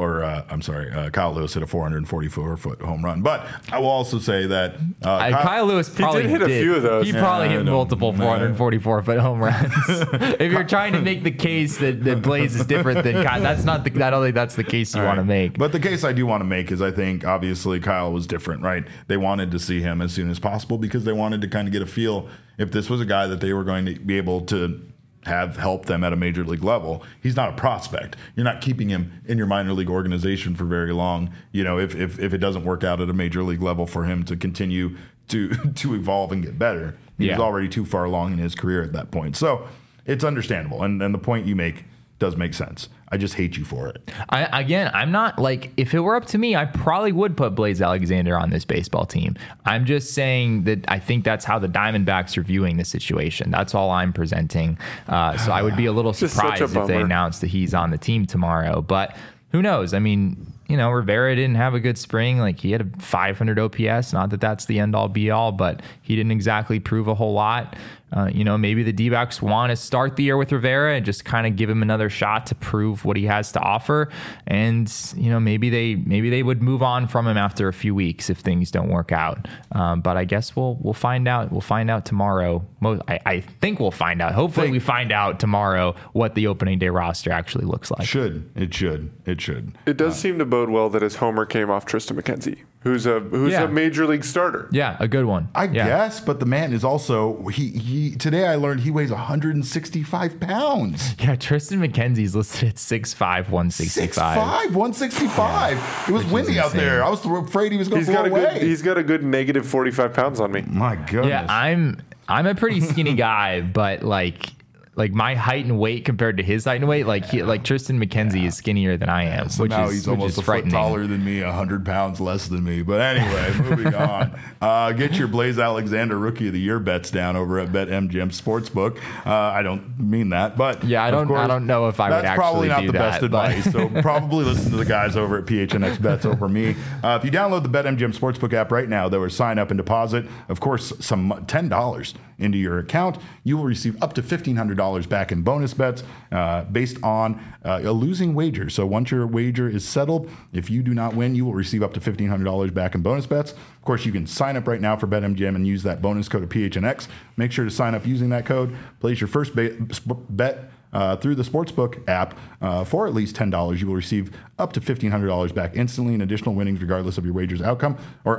Kyle Lewis hit a 444-foot home run. But I will also say that Kyle Lewis probably did hit a few of those. He probably hit multiple 444-foot home runs. If you're trying to make the case that Blaze is different than Kyle, I don't think that's the case you want to make. But the case I do want to make is I think obviously Kyle was different, right? They wanted to see him as soon as possible because they wanted to kind of get a feel if this was a guy that they were going to be able to have helped them at a major league level. He's not a prospect. You're not keeping him in your minor league organization for very long. If it doesn't work out at a major league level for him to continue to evolve and get better. He's already too far along in his career at that point. So it's understandable. And the point you make does make sense. I just hate you for it. I'm not if it were up to me, I probably would put Blaze Alexander on this baseball team. I'm just saying that I think that's how the Diamondbacks are viewing the situation. That's all I'm presenting. So I would be a little surprised if they announced that he's on the team tomorrow. But who knows? I mean, Rivera didn't have a good spring. He had a 500 OPS. Not that that's the end all be all, but he didn't exactly prove a whole lot. maybe the D-backs want to start the year with Rivera and just kind of give him another shot to prove what he has to offer. And, maybe they would move on from him after a few weeks if things don't work out. But I guess we'll find out. We'll find out tomorrow. I think we'll find out. Hopefully we find out tomorrow what the opening day roster actually looks like. It should. It does seem to bode well that his homer came off Tristan McKenzie, who's a major league starter. Yeah, a good one. I guess, but the man is also he. Today I learned he weighs 165 pounds. Yeah, Tristan McKenzie's listed at 6'5", 165. 6'5", 165. It was windy out there. I was afraid he was going to blow away. He's got a good negative 45 pounds on me. My goodness. Yeah, I'm a pretty skinny guy, but like my height and weight compared to his height and weight, like Tristan McKenzie is skinnier than I am. So now he's almost a foot taller than me, 100 pounds less than me. But anyway, moving on. Get your Blaze Alexander Rookie of the Year bets down over at BetMGM Sportsbook. I don't mean that, but yeah, I don't know if I would actually do that. That's probably not the best advice. So probably listen to the guys over at PHNX Bets over me. If you download the BetMGM Sportsbook app right now, there was sign up and deposit, of course, some $10 into your account. You will receive up to $1,500 back in bonus bets based on a losing wager. So once your wager is settled, if you do not win, you will receive up to $1,500 back in bonus bets. Of course, you can sign up right now for BetMGM and use that bonus code of PHNX. Make sure to sign up using that code. Place your first bet through the Sportsbook app for at least $10. You will receive up to $1,500 back instantly in additional winnings regardless of your wager's outcome.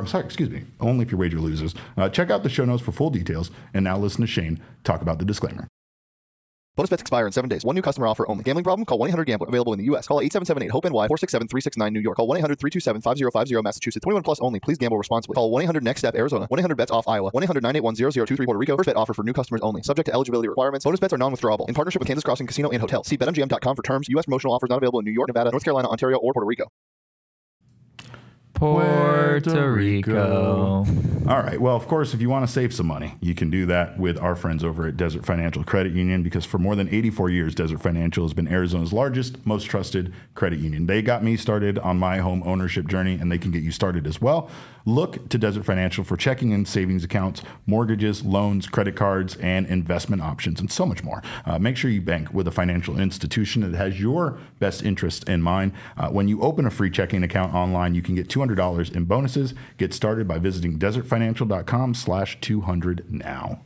Only if your wager loses. Check out the show notes for full details. And now listen to Shane talk about the disclaimer. Bonus bets expire in 7 days. One new customer offer only. Gambling problem? Call 1-800-GAMBLER. Available in the U.S. Call 877-8-HOPE-NY 467-369 New York. Call 1-800-327-5050 Massachusetts. 21 plus only. Please gamble responsibly. Call 1-800-NEXT-STEP Arizona. 1-800-BETS-OFF Iowa. 1-800-981-0023 Puerto Rico. First bet offer for new customers only. Subject to eligibility requirements. Bonus bets are non-withdrawable. In partnership with Kansas Crossing Casino and Hotel. See BetMGM.com for terms. U.S. promotional offers not available in New York, Nevada, North Carolina, Ontario, or Puerto Rico. Puerto Rico. All right. Well, of course, if you want to save some money, you can do that with our friends over at Desert Financial Credit Union, because for more than 84 years, Desert Financial has been Arizona's largest, most trusted credit union. They got me started on my home ownership journey, and they can get you started as well. Look to Desert Financial for checking and savings accounts, mortgages, loans, credit cards, and investment options, and so much more. Make sure you bank with a financial institution that has your best interest in mind. When you open a free checking account online, you can get $200 in bonuses. Get started by visiting desertfinancial.com/200 now.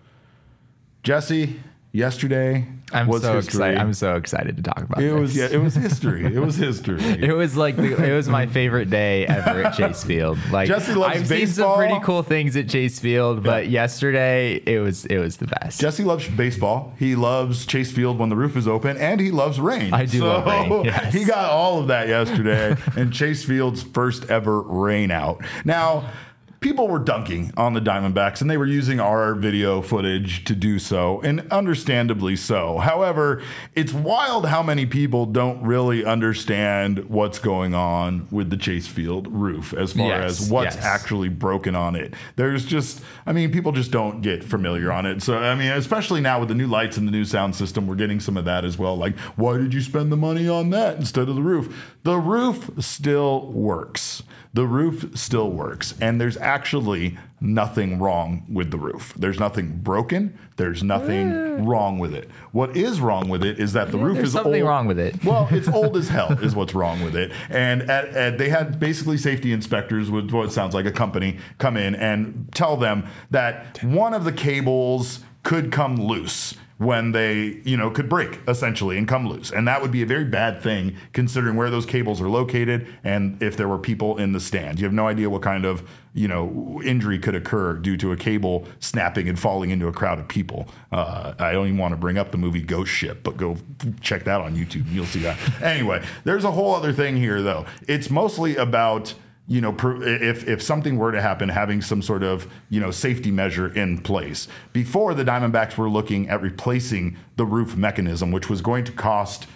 Jesse, yesterday was history. Excited. I'm so excited to talk about it. This. It was history. It was history. It was my favorite day ever at Chase Field. Like, Jesse loves I've baseball. seen some pretty cool things at Chase Field, but yesterday it was the best. Jesse loves baseball. He loves Chase Field when the roof is open, and he loves rain. I do love rain. Yes. He got all of that yesterday, and Chase Field's first ever rain out. Now, people were dunking on the Diamondbacks, and they were using our video footage to do so, and understandably so. However, it's wild how many people don't really understand what's going on with the Chase Field roof as far as what's actually broken on it. There's just, people just don't get familiar on it. So, especially now with the new lights and the new sound system, we're getting some of that as well. Like, why did you spend the money on that instead of the roof? The roof still works. The roof still works, and there's actually nothing wrong with the roof. There's nothing broken. There's nothing wrong with it. What is wrong with it is that the roof is old. There's something wrong with it. Well, it's old as hell is what's wrong with it. And they had basically safety inspectors with what sounds like a company come in and tell them that one of the cables could come loose when they, could break essentially and come loose. And that would be a very bad thing considering where those cables are located and if there were people in the stands. You have no idea what kind of, injury could occur due to a cable snapping and falling into a crowd of people. I don't even want to bring up the movie Ghost Ship, but go check that on YouTube. You'll see that. Anyway, there's a whole other thing here though. It's mostly about if something were to happen, having some sort of, safety measure in place. Before, the Diamondbacks were looking at replacing the roof mechanism, which was going to cost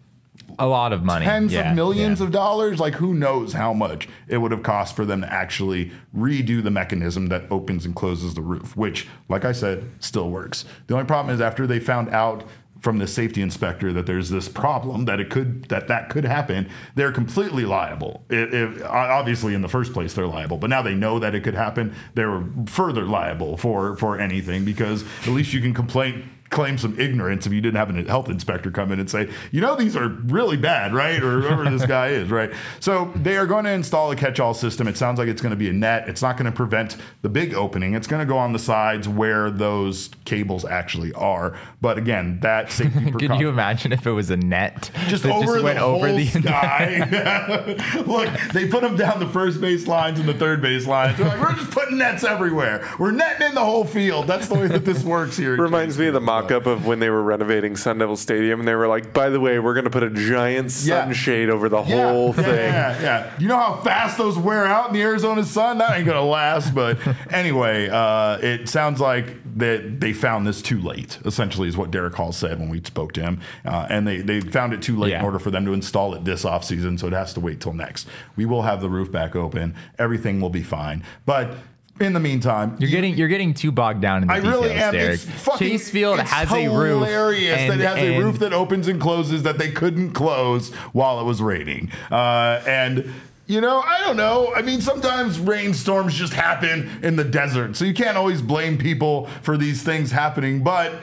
a lot of money. Tens of millions of dollars. Like, who knows how much it would have cost for them to actually redo the mechanism that opens and closes the roof, which, like I said, still works. The only problem is after they found out from the safety inspector that there's this problem that that could happen, they're completely liable. Obviously, in the first place, they're liable, but now they know that it could happen. They're further liable for anything, because at least you can claim some ignorance if you didn't have a health inspector come in and say, these are really bad, right? Or whoever this guy is, right? So they are going to install a catch-all system. It sounds like it's going to be a net. It's not going to prevent the big opening. It's going to go on the sides where those cables actually are. But again, that safety precaution. Can you imagine if it was a net? Just that over went the over whole the sky. Look, they put them down the first base lines and the third base lines. They're like, we're just putting nets everywhere. We're netting in the whole field. That's the way that this works here. Reminds me of the mock-up of when they were renovating Sun Devil Stadium, and they were like, by the way, we're going to put a giant sunshade over the whole thing. Yeah. You know how fast those wear out in the Arizona sun? That ain't going to last. But anyway, it sounds like that they found this too late, essentially, is what Derek Hall said when we spoke to him. And they found it too late in order for them to install it this offseason, so it has to wait till next. We will have the roof back open. Everything will be fine. But in the meantime, you're getting too bogged down in the details, really am. Derek. Chase Field has a roof. Hilarious that it has a roof that opens and closes that they couldn't close while it was raining. I don't know. I mean, sometimes rainstorms just happen in the desert, so you can't always blame people for these things happening. But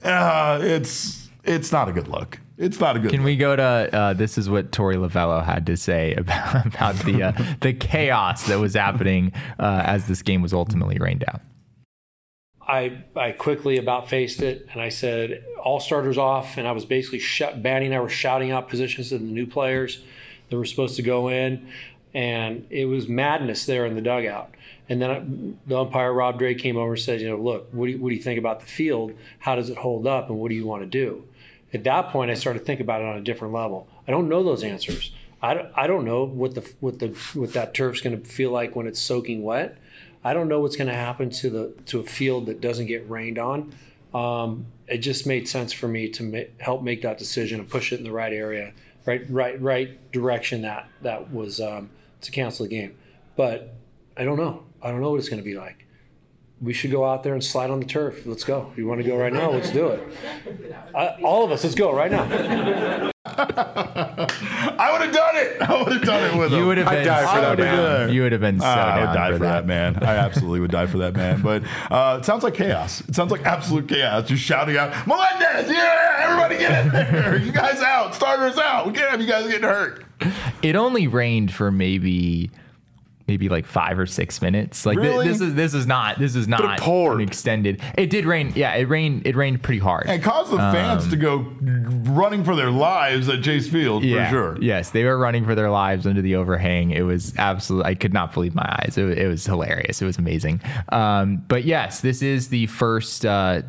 it's not a good look. It's not a good. Can we go to this is what Torey Lovello had to say about the chaos that was happening as this game was ultimately rained out. I quickly about-faced it, and I said, all starters off, and I was basically Banny and I were shouting out positions to the new players that were supposed to go in, and it was madness there in the dugout. And then the umpire, Rob Drake, came over and said, look, what do you think about the field? How does it hold up, and what do you want to do? At that point, I started to think about it on a different level. I don't know those answers. I don't know what that turf's going to feel like when it's soaking wet. I don't know what's going to happen to a field that doesn't get rained on. It just made sense for me to help make that decision and push it in the right area, right direction. That was to cancel the game. But I don't know. I don't know what it's going to be like. We should go out there and slide on the turf. Let's go. You want to go right now? Let's do it. All of us, let's go right now. I would have done it. I would have done it with him. You would have been. die for that man. You would have been so down. I would die for that man. I absolutely would die for that man. But it sounds like chaos. It sounds like absolute chaos. Just shouting out, Melendez, yeah, everybody get in there. You guys out. Starters out. We can't have you guys getting hurt. It only rained for maybe like 5 or 6 minutes. Like really? This is not an extended. It did rain. Yeah, it rained pretty hard. And caused the fans to go running for their lives at Chase Field for sure. Yes, they were running for their lives under the overhang. It was absolutely. I could not believe my eyes. It was hilarious. It was amazing. But yes, this is the first.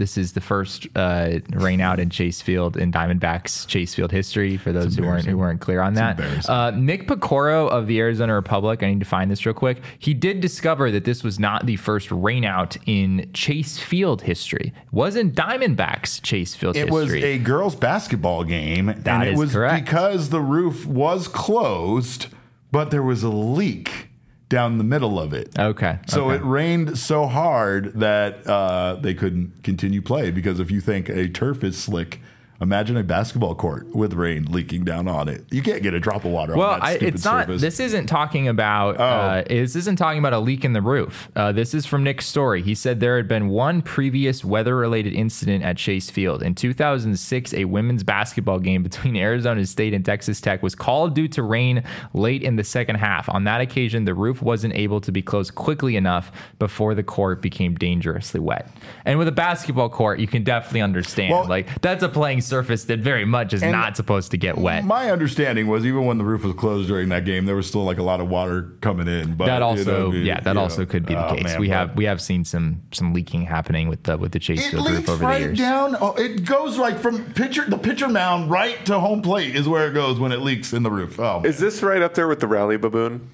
Rain out in Chase Field in Diamondbacks Chase Field history. For those who weren't clear on that, Nick Picoro of the Arizona Republic. I need to find this real quick. He did discover that this was not the first rainout in Chase Field history. It was in Diamondbacks Chase Field history. It was a girls' basketball game. That is correct. Because the roof was closed, but there was a leak down the middle of it. Okay. So it rained so hard that they couldn't continue play, because if you think a turf is slick, imagine a basketball court with rain leaking down on it. You can't get a drop of water on that stupid surface. This isn't talking about. This isn't talking about a leak in the roof. This is from Nick's story. He said there had been one previous weather-related incident at Chase Field in 2006. A women's basketball game between Arizona State and Texas Tech was called due to rain late in the second half. On that occasion, the roof wasn't able to be closed quickly enough before the court became dangerously wet. And with a basketball court, you can definitely understand. That's a playing surface that very much is not supposed to get wet. My understanding was even when the roof was closed during that game, there was still like a lot of water coming in. But that also, also could be the case. We have seen some leaking happening with the Chase Field roof over the years. Down. Oh, it goes like from the pitcher mound right to home plate is where it goes when it leaks in the roof. Oh, man. Is this right up there with the Rally Baboon?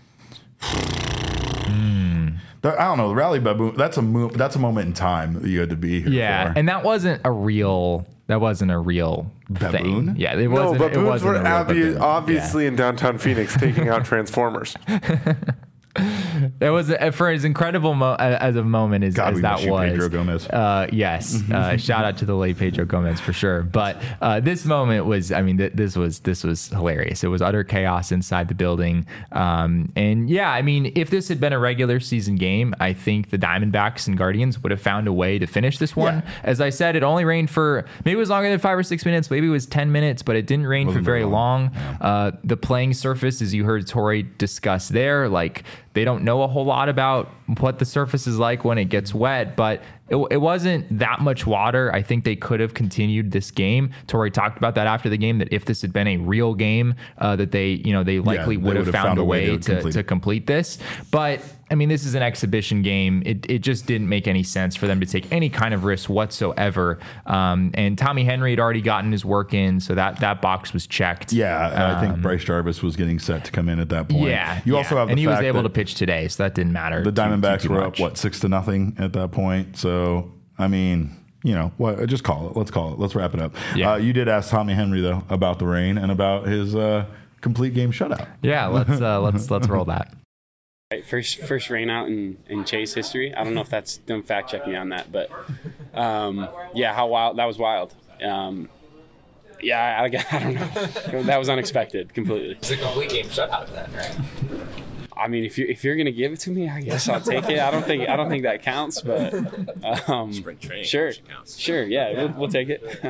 I don't know. The Rally Baboon. That's a moment in time that you had to be here. Yeah, and that wasn't a real. That wasn't a real baboon. Thing. Yeah, it wasn't. No, baboons were obviously in downtown Phoenix taking out Transformers. That was for as incredible as a moment as God, we that miss you, was. Pedro Gomez. Yes, shout out to the late Pedro Gomez for sure. But this moment was, I mean, this was hilarious. It was utter chaos inside the building. And yeah, I mean, if this had been a regular season game, I think the Diamondbacks and Guardians would have found a way to finish this one. Yeah. As I said, it only rained for maybe it was longer than 5 or 6 minutes, maybe it was 10 minutes, but it didn't rain for very long. Yeah. The playing surface, as you heard Torey discuss there, like they don't know a whole lot about what the surface is like when it gets wet, but it wasn't that much water. I think they could have continued this game. Torey talked about that after the game, that if this had been a real game, that they likely would have found a way to complete this. But I mean, this is an exhibition game. It just didn't make any sense for them to take any kind of risk whatsoever. And Tommy Henry had already gotten his work in, so that box was checked. Yeah, I think Bryce Jarvis was getting set to come in at that point. Yeah, you also have the and he fact was able that to pitch today, so that didn't matter. The Diamondbacks were up 6-0 at that point. So I mean, just call it. Let's call it. Let's wrap it up. Yeah. You did ask Tommy Henry though about the rain and about his complete game shutout. Yeah, let's roll that. Right, first rain out in Chase history. I don't know if don't fact check me on that, but yeah, how wild that was wild. Yeah, I don't know. That was unexpected completely. It's a complete game shutout then, right? I mean, if you're gonna give it to me, I guess I'll take it. I don't think that counts, but spring training sure, yeah, we'll take it.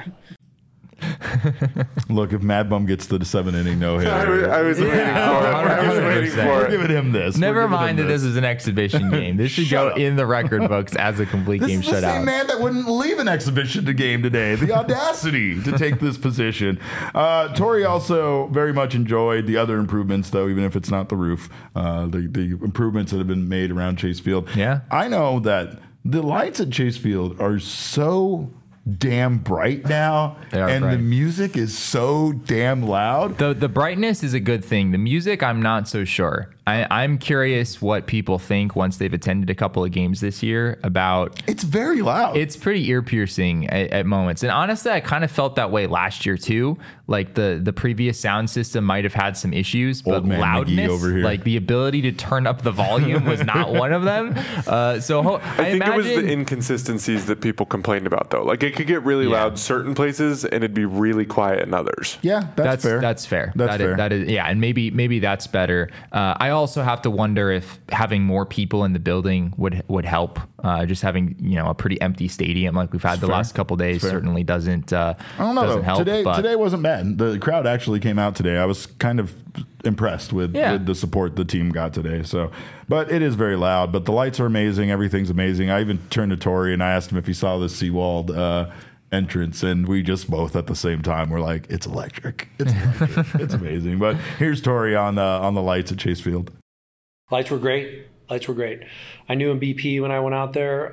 Look, if Mad Bum gets the 7-inning no-hitter, I was waiting for it. I was waiting for we're it. giving him this. Never mind that this is an exhibition game. This should go in the record books as a complete game shutout. This is the same man that wouldn't leave an exhibition game today. The audacity to take this position. Torey also very much enjoyed the other improvements, though, even if it's not the roof. The improvements that have been made around Chase Field. Yeah, I know that the lights at Chase Field are so damn bright now, and bright. The music is so damn loud. The brightness is a good thing. The music, I'm not so sure. I'm curious what people think once they've attended a couple of games this year about. It's very loud. It's pretty ear piercing at moments, and honestly, I kind of felt that way last year too. Like the previous sound system might have had some issues, but loudness, over here. Like the ability to turn up the volume, was not one of them. So I think it was the inconsistencies that people complained about, though. Like it could get really loud certain places, and it'd be really quiet in others. Yeah, that's fair. That's fair. That's fair. That is, yeah, and maybe that's better. I also have to wonder if having more people in the building would help. Just having a pretty empty stadium like we've had the last couple of days certainly doesn't. I don't know. Doesn't help, today wasn't bad. The crowd actually came out today. I was kind of impressed with the support the team got today. So, but it is very loud. But the lights are amazing. Everything's amazing. I even turned to Torey and I asked him if he saw the Seawald entrance, and we just both at the same time were like, "It's electric. It's electric. It's amazing." But here's Torey on the lights at Chase Field. Lights were great. I knew in BP when I went out there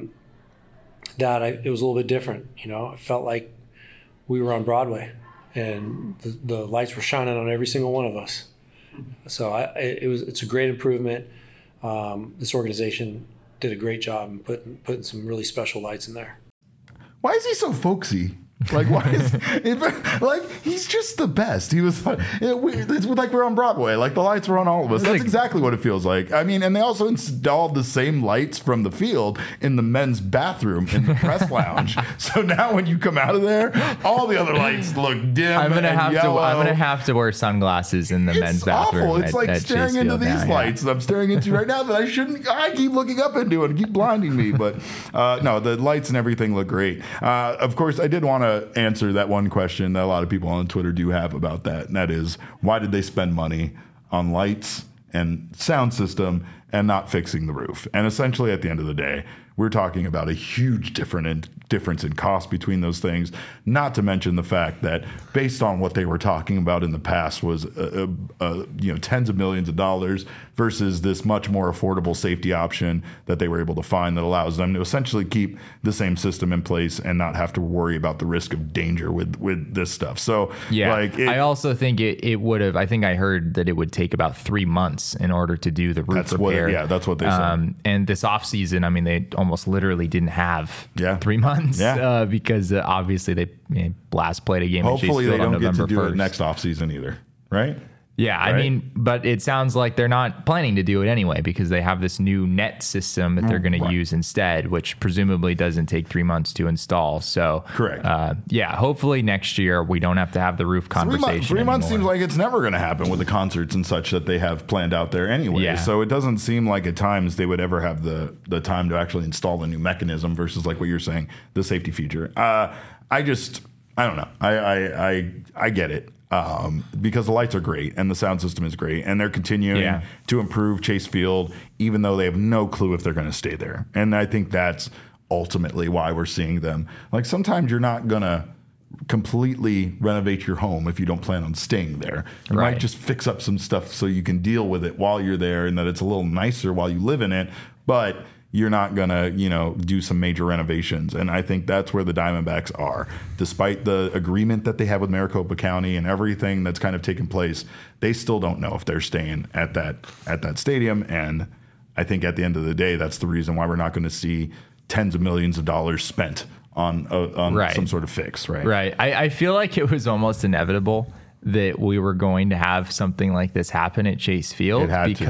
that it was a little bit different. I felt like we were on Broadway, and the lights were shining on every single one of us. So it's a great improvement. This organization did a great job in putting some really special lights in there. Why is he so folksy? Like, why is he's just the best. He was it's like we're on Broadway. Like the lights were on all of us. That's exactly what it feels like. I mean, and they also installed the same lights from the field in the men's bathroom in the press lounge. So now when you come out of there, all the other lights look dim. I'm gonna have to wear sunglasses in the men's bathroom. Awful. It's like staring into these lights that I'm staring into right now that I shouldn't. I keep looking up into and keep blinding me. But no, the lights and everything look great. Of course, I did want to answer that one question that a lot of people on Twitter do have about that, and that is, why did they spend money on lights and sound system and not fixing the roof? And essentially, at the end of the day, we're talking about a huge difference in cost between those things, not to mention the fact that based on what they were talking about in the past was tens of millions of dollars versus this much more affordable safety option that they were able to find that allows them to essentially keep the same system in place and not have to worry about the risk of danger with this stuff. So I also think it would have. I think I heard that it would take about 3 months in order to do the roof repair. That's what they said. And this off season, I mean, they almost literally didn't have 3 months. Because obviously they Blast played a game. Hopefully at Chase they Field don't on November get to do 1st. it next offseason either, right? Yeah, I mean, but it sounds like they're not planning to do it anyway because they have this new net system that they're going to use instead, which presumably doesn't take 3 months to install. So, correct. Yeah, hopefully next year we don't have to have the roof conversation. 3 months seems like it's never going to happen with the concerts and such that they have planned out there anyway. Yeah. So it doesn't seem like at times they would ever have the time to actually install a new mechanism versus like what you're saying, the safety feature. I don't know. I get it. Because the lights are great and the sound system is great and they're continuing to improve Chase Field, even though they have no clue if they're going to stay there. And I think that's ultimately why we're seeing them. Like sometimes you're not going to completely renovate your home if you don't plan on staying there. You might just fix up some stuff so you can deal with it while you're there and that it's a little nicer while you live in it. But you're not going to, do some major renovations. And I think that's where the Diamondbacks are. Despite the agreement that they have with Maricopa County and everything that's kind of taken place, they still don't know if they're staying at that stadium. And I think at the end of the day, that's the reason why we're not going to see tens of millions of dollars spent on some sort of fix, right? Right. I feel like it was almost inevitable that we were going to have something like this happen at Chase Field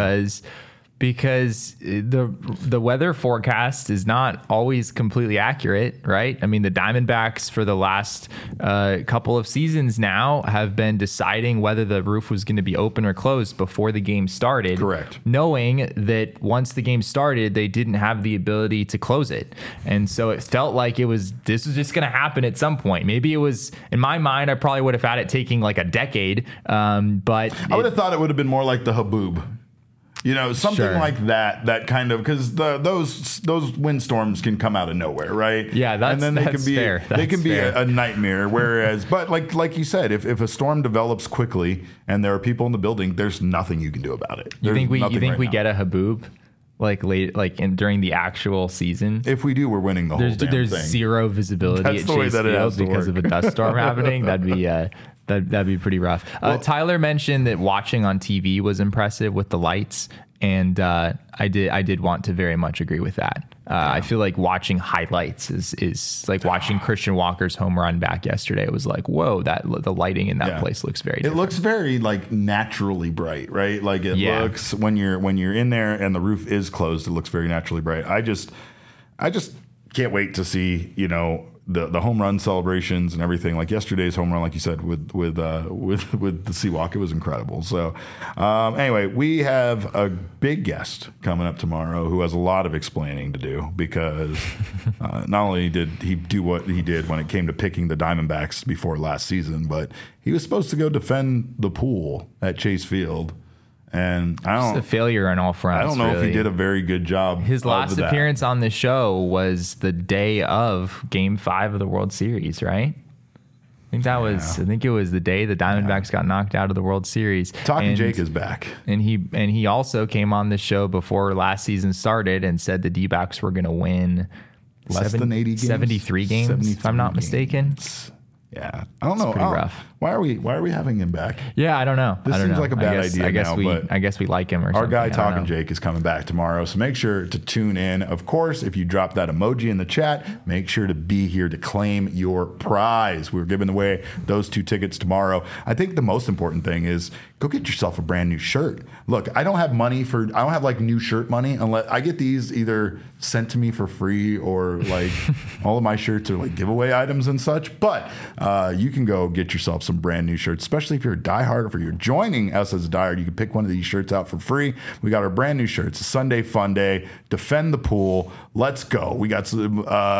because the weather forecast is not always completely accurate, right? I mean, the Diamondbacks for the last couple of seasons now have been deciding whether the roof was going to be open or closed before the game started. Correct. Knowing that once the game started, they didn't have the ability to close it. And so it felt like this was just going to happen at some point. Maybe it was, in my mind, I probably would have had it taking like a decade. But I would have thought it would have been more like the Haboob. Something like that kind of, because those windstorms can come out of nowhere, right? Yeah, and then that's fair. They can be a nightmare. Whereas, but like you said, if a storm develops quickly and there are people in the building, there's nothing you can do about it. You think we get a Haboob during the actual season? If we do, we're winning the whole damn thing. There's zero visibility at Chase Field because of a dust storm happening. That'd be pretty rough. Tyler mentioned that watching on TV was impressive with the lights, and I did want to very much agree with that. I feel like watching highlights is like watching Christian Walker's home run back yesterday. It was like, whoa, the lighting in that place looks very different. It looks very like naturally bright, right? Like it looks when you're in there and the roof is closed, it looks very naturally bright. I just can't wait to see, the home run celebrations and everything. Like yesterday's home run, like you said, with the Seawalk, it was incredible. So anyway, we have a big guest coming up tomorrow who has a lot of explaining to do because not only did he do what he did when it came to picking the Diamondbacks before last season, but he was supposed to go defend the pool at Chase Field. And just a failure on all fronts. I don't know if he did a very good job. His last appearance on the show was the day of Game 5 of the World Series, right? I think it was the day the Diamondbacks got knocked out of the World Series. Talking Jake is back. And he also came on the show before last season started and said the D-backs were going to win less than 80 games? 73 games, if I'm not mistaken. Yeah, I don't know. Pretty rough. Why are we having him back? Yeah, I don't know. This seems like a bad idea. I guess we like him. Or our something. guy Talking Jake is coming back tomorrow, so make sure to tune in. Of course, if you drop that emoji in the chat, make sure to be here to claim your prize. We're giving away those 2 tickets tomorrow. I think the most important thing is go get yourself a brand new shirt. Look, I don't have like new shirt money unless I get these either sent to me for free or like all of my shirts are like giveaway items and such. But you can go get yourself some brand new shirts, especially if you're a diehard or if you're joining us as a diehard. You can pick one of these shirts out for free. We got our brand new shirts. A Sunday Fun Day. Defend the pool. Let's go. We got some.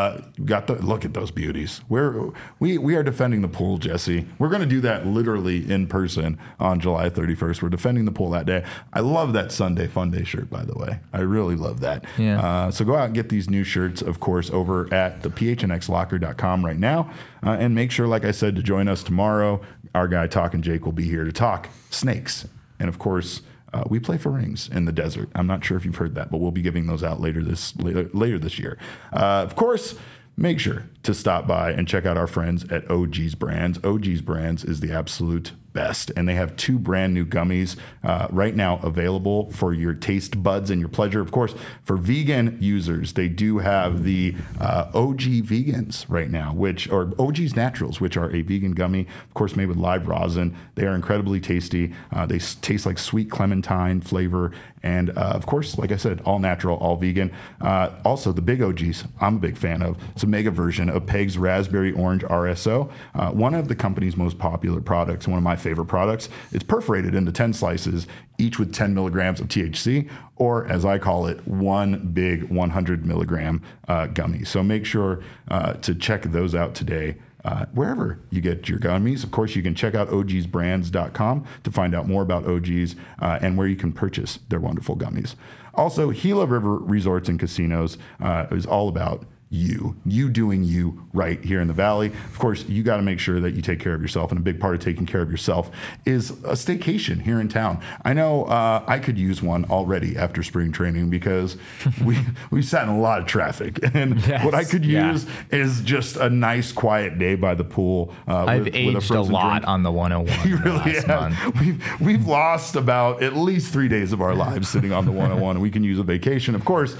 Look at those beauties. We are defending the pool, Jesse. We're going to do that literally in person on July 31st. We're defending the pool that day. I love that Sunday Fun Day shirt, by the way. I really love that. Yeah. So go out and get these new shirts, of course, over at the phnxlocker.com right now. And make sure, like I said, to join us tomorrow. Our guy Talking Jake will be here to talk snakes. And of course, we play for rings in the desert. I'm not sure if you've heard that, but we'll be giving those out later this year. Of course, make sure to stop by and check out our friends at OG's Brands. OG's Brands is the absolute best. And they have 2 brand new gummies right now available for your taste buds and your pleasure. Of course, for vegan users, they do have the OG Vegans right now, or OG's Naturals, which are a vegan gummy, of course, made with live rosin. They are incredibly tasty. They taste like sweet clementine flavor. And of course, like I said, all natural, all vegan. Also, the big OGs, I'm a big fan of. It's a mega version of Peg's Raspberry Orange RSO, one of the company's most popular products, one of my favorite products. It's perforated into 10 slices, each with 10 milligrams of THC, or as I call it, one big 100 milligram gummy. So make sure to check those out today. Wherever you get your gummies. Of course, you can check out ogsbrands.com to find out more about OGs and where you can purchase their wonderful gummies. Also, Gila River Resorts and Casinos is all about you doing you right here in the Valley. Of course, you got to make sure that you take care of yourself, and a big part of taking care of yourself is a staycation here in town. I know I could use one already after spring training because we sat in a lot of traffic, and what I could use is just a nice quiet day by the pool. I've aged a lot on the 101. You really have. We've lost about at least 3 days of our lives sitting on the 101, and we can use a vacation. Of course,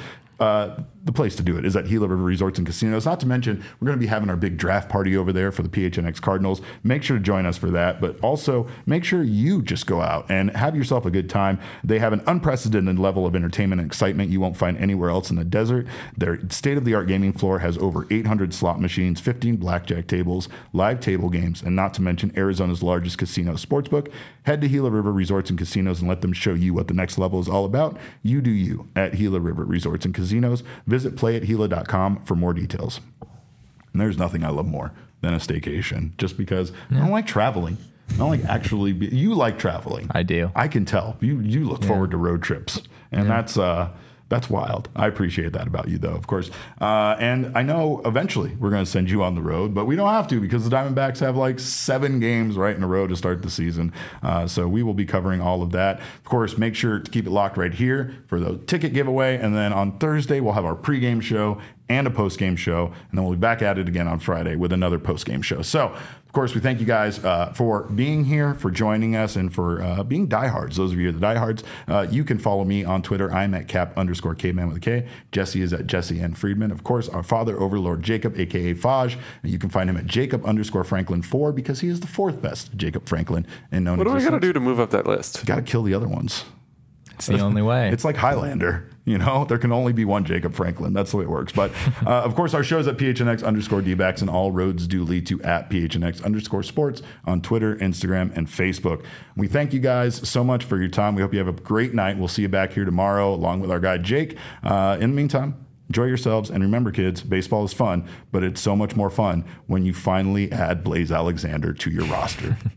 the place to do it is at Gila River Resorts and Casinos. Not to mention, we're going to be having our big draft party over there for the PHNX Cardinals. Make sure to join us for that, but also make sure you just go out and have yourself a good time. They have an unprecedented level of entertainment and excitement you won't find anywhere else in the desert. Their state-of-the-art gaming floor has over 800 slot machines, 15 blackjack tables, live table games, and not to mention Arizona's largest casino sportsbook. Head to Gila River Resorts and Casinos and let them show you what the next level is all about. You do you at Gila River Resorts and Casinos. Visit playathila.com for more details. And there's nothing I love more than a staycation, just because I don't like traveling. I don't like actually you like traveling. I do. I can tell. You look forward to road trips, and that's wild. I appreciate that about you, though, of course. And I know eventually we're going to send you on the road, but we don't have to because the Diamondbacks have like 7 games right in a row to start the season. So we will be covering all of that. Of course, make sure to keep it locked right here for the ticket giveaway. And then on Thursday, we'll have our pregame show and a postgame show. And then we'll be back at it again on Friday with another postgame show. So, of course, we thank you guys for being here, for joining us, and for being diehards. Those of you who are the diehards, you can follow me on Twitter. I'm at cap_caveman with a K. Jesse is at Jesse N. Friedman. Of course, our father, Overlord Jacob, a.k.a. Faj. You can find him at Jacob_Franklin4 because he is the 4th best Jacob Franklin in known existence. What do I got to do to move up that list? You got to kill the other ones. It's the only way. It's like Highlander. There can only be one Jacob Franklin. That's the way it works. But of course, our show's at PHNX_DBacks, and all roads do lead to at PHNX_sports on Twitter, Instagram, and Facebook. We thank you guys so much for your time. We hope you have a great night. We'll see you back here tomorrow along with our guy, Jake. In the meantime, enjoy yourselves. And remember, kids, baseball is fun, but it's so much more fun when you finally add Blaze Alexander to your roster.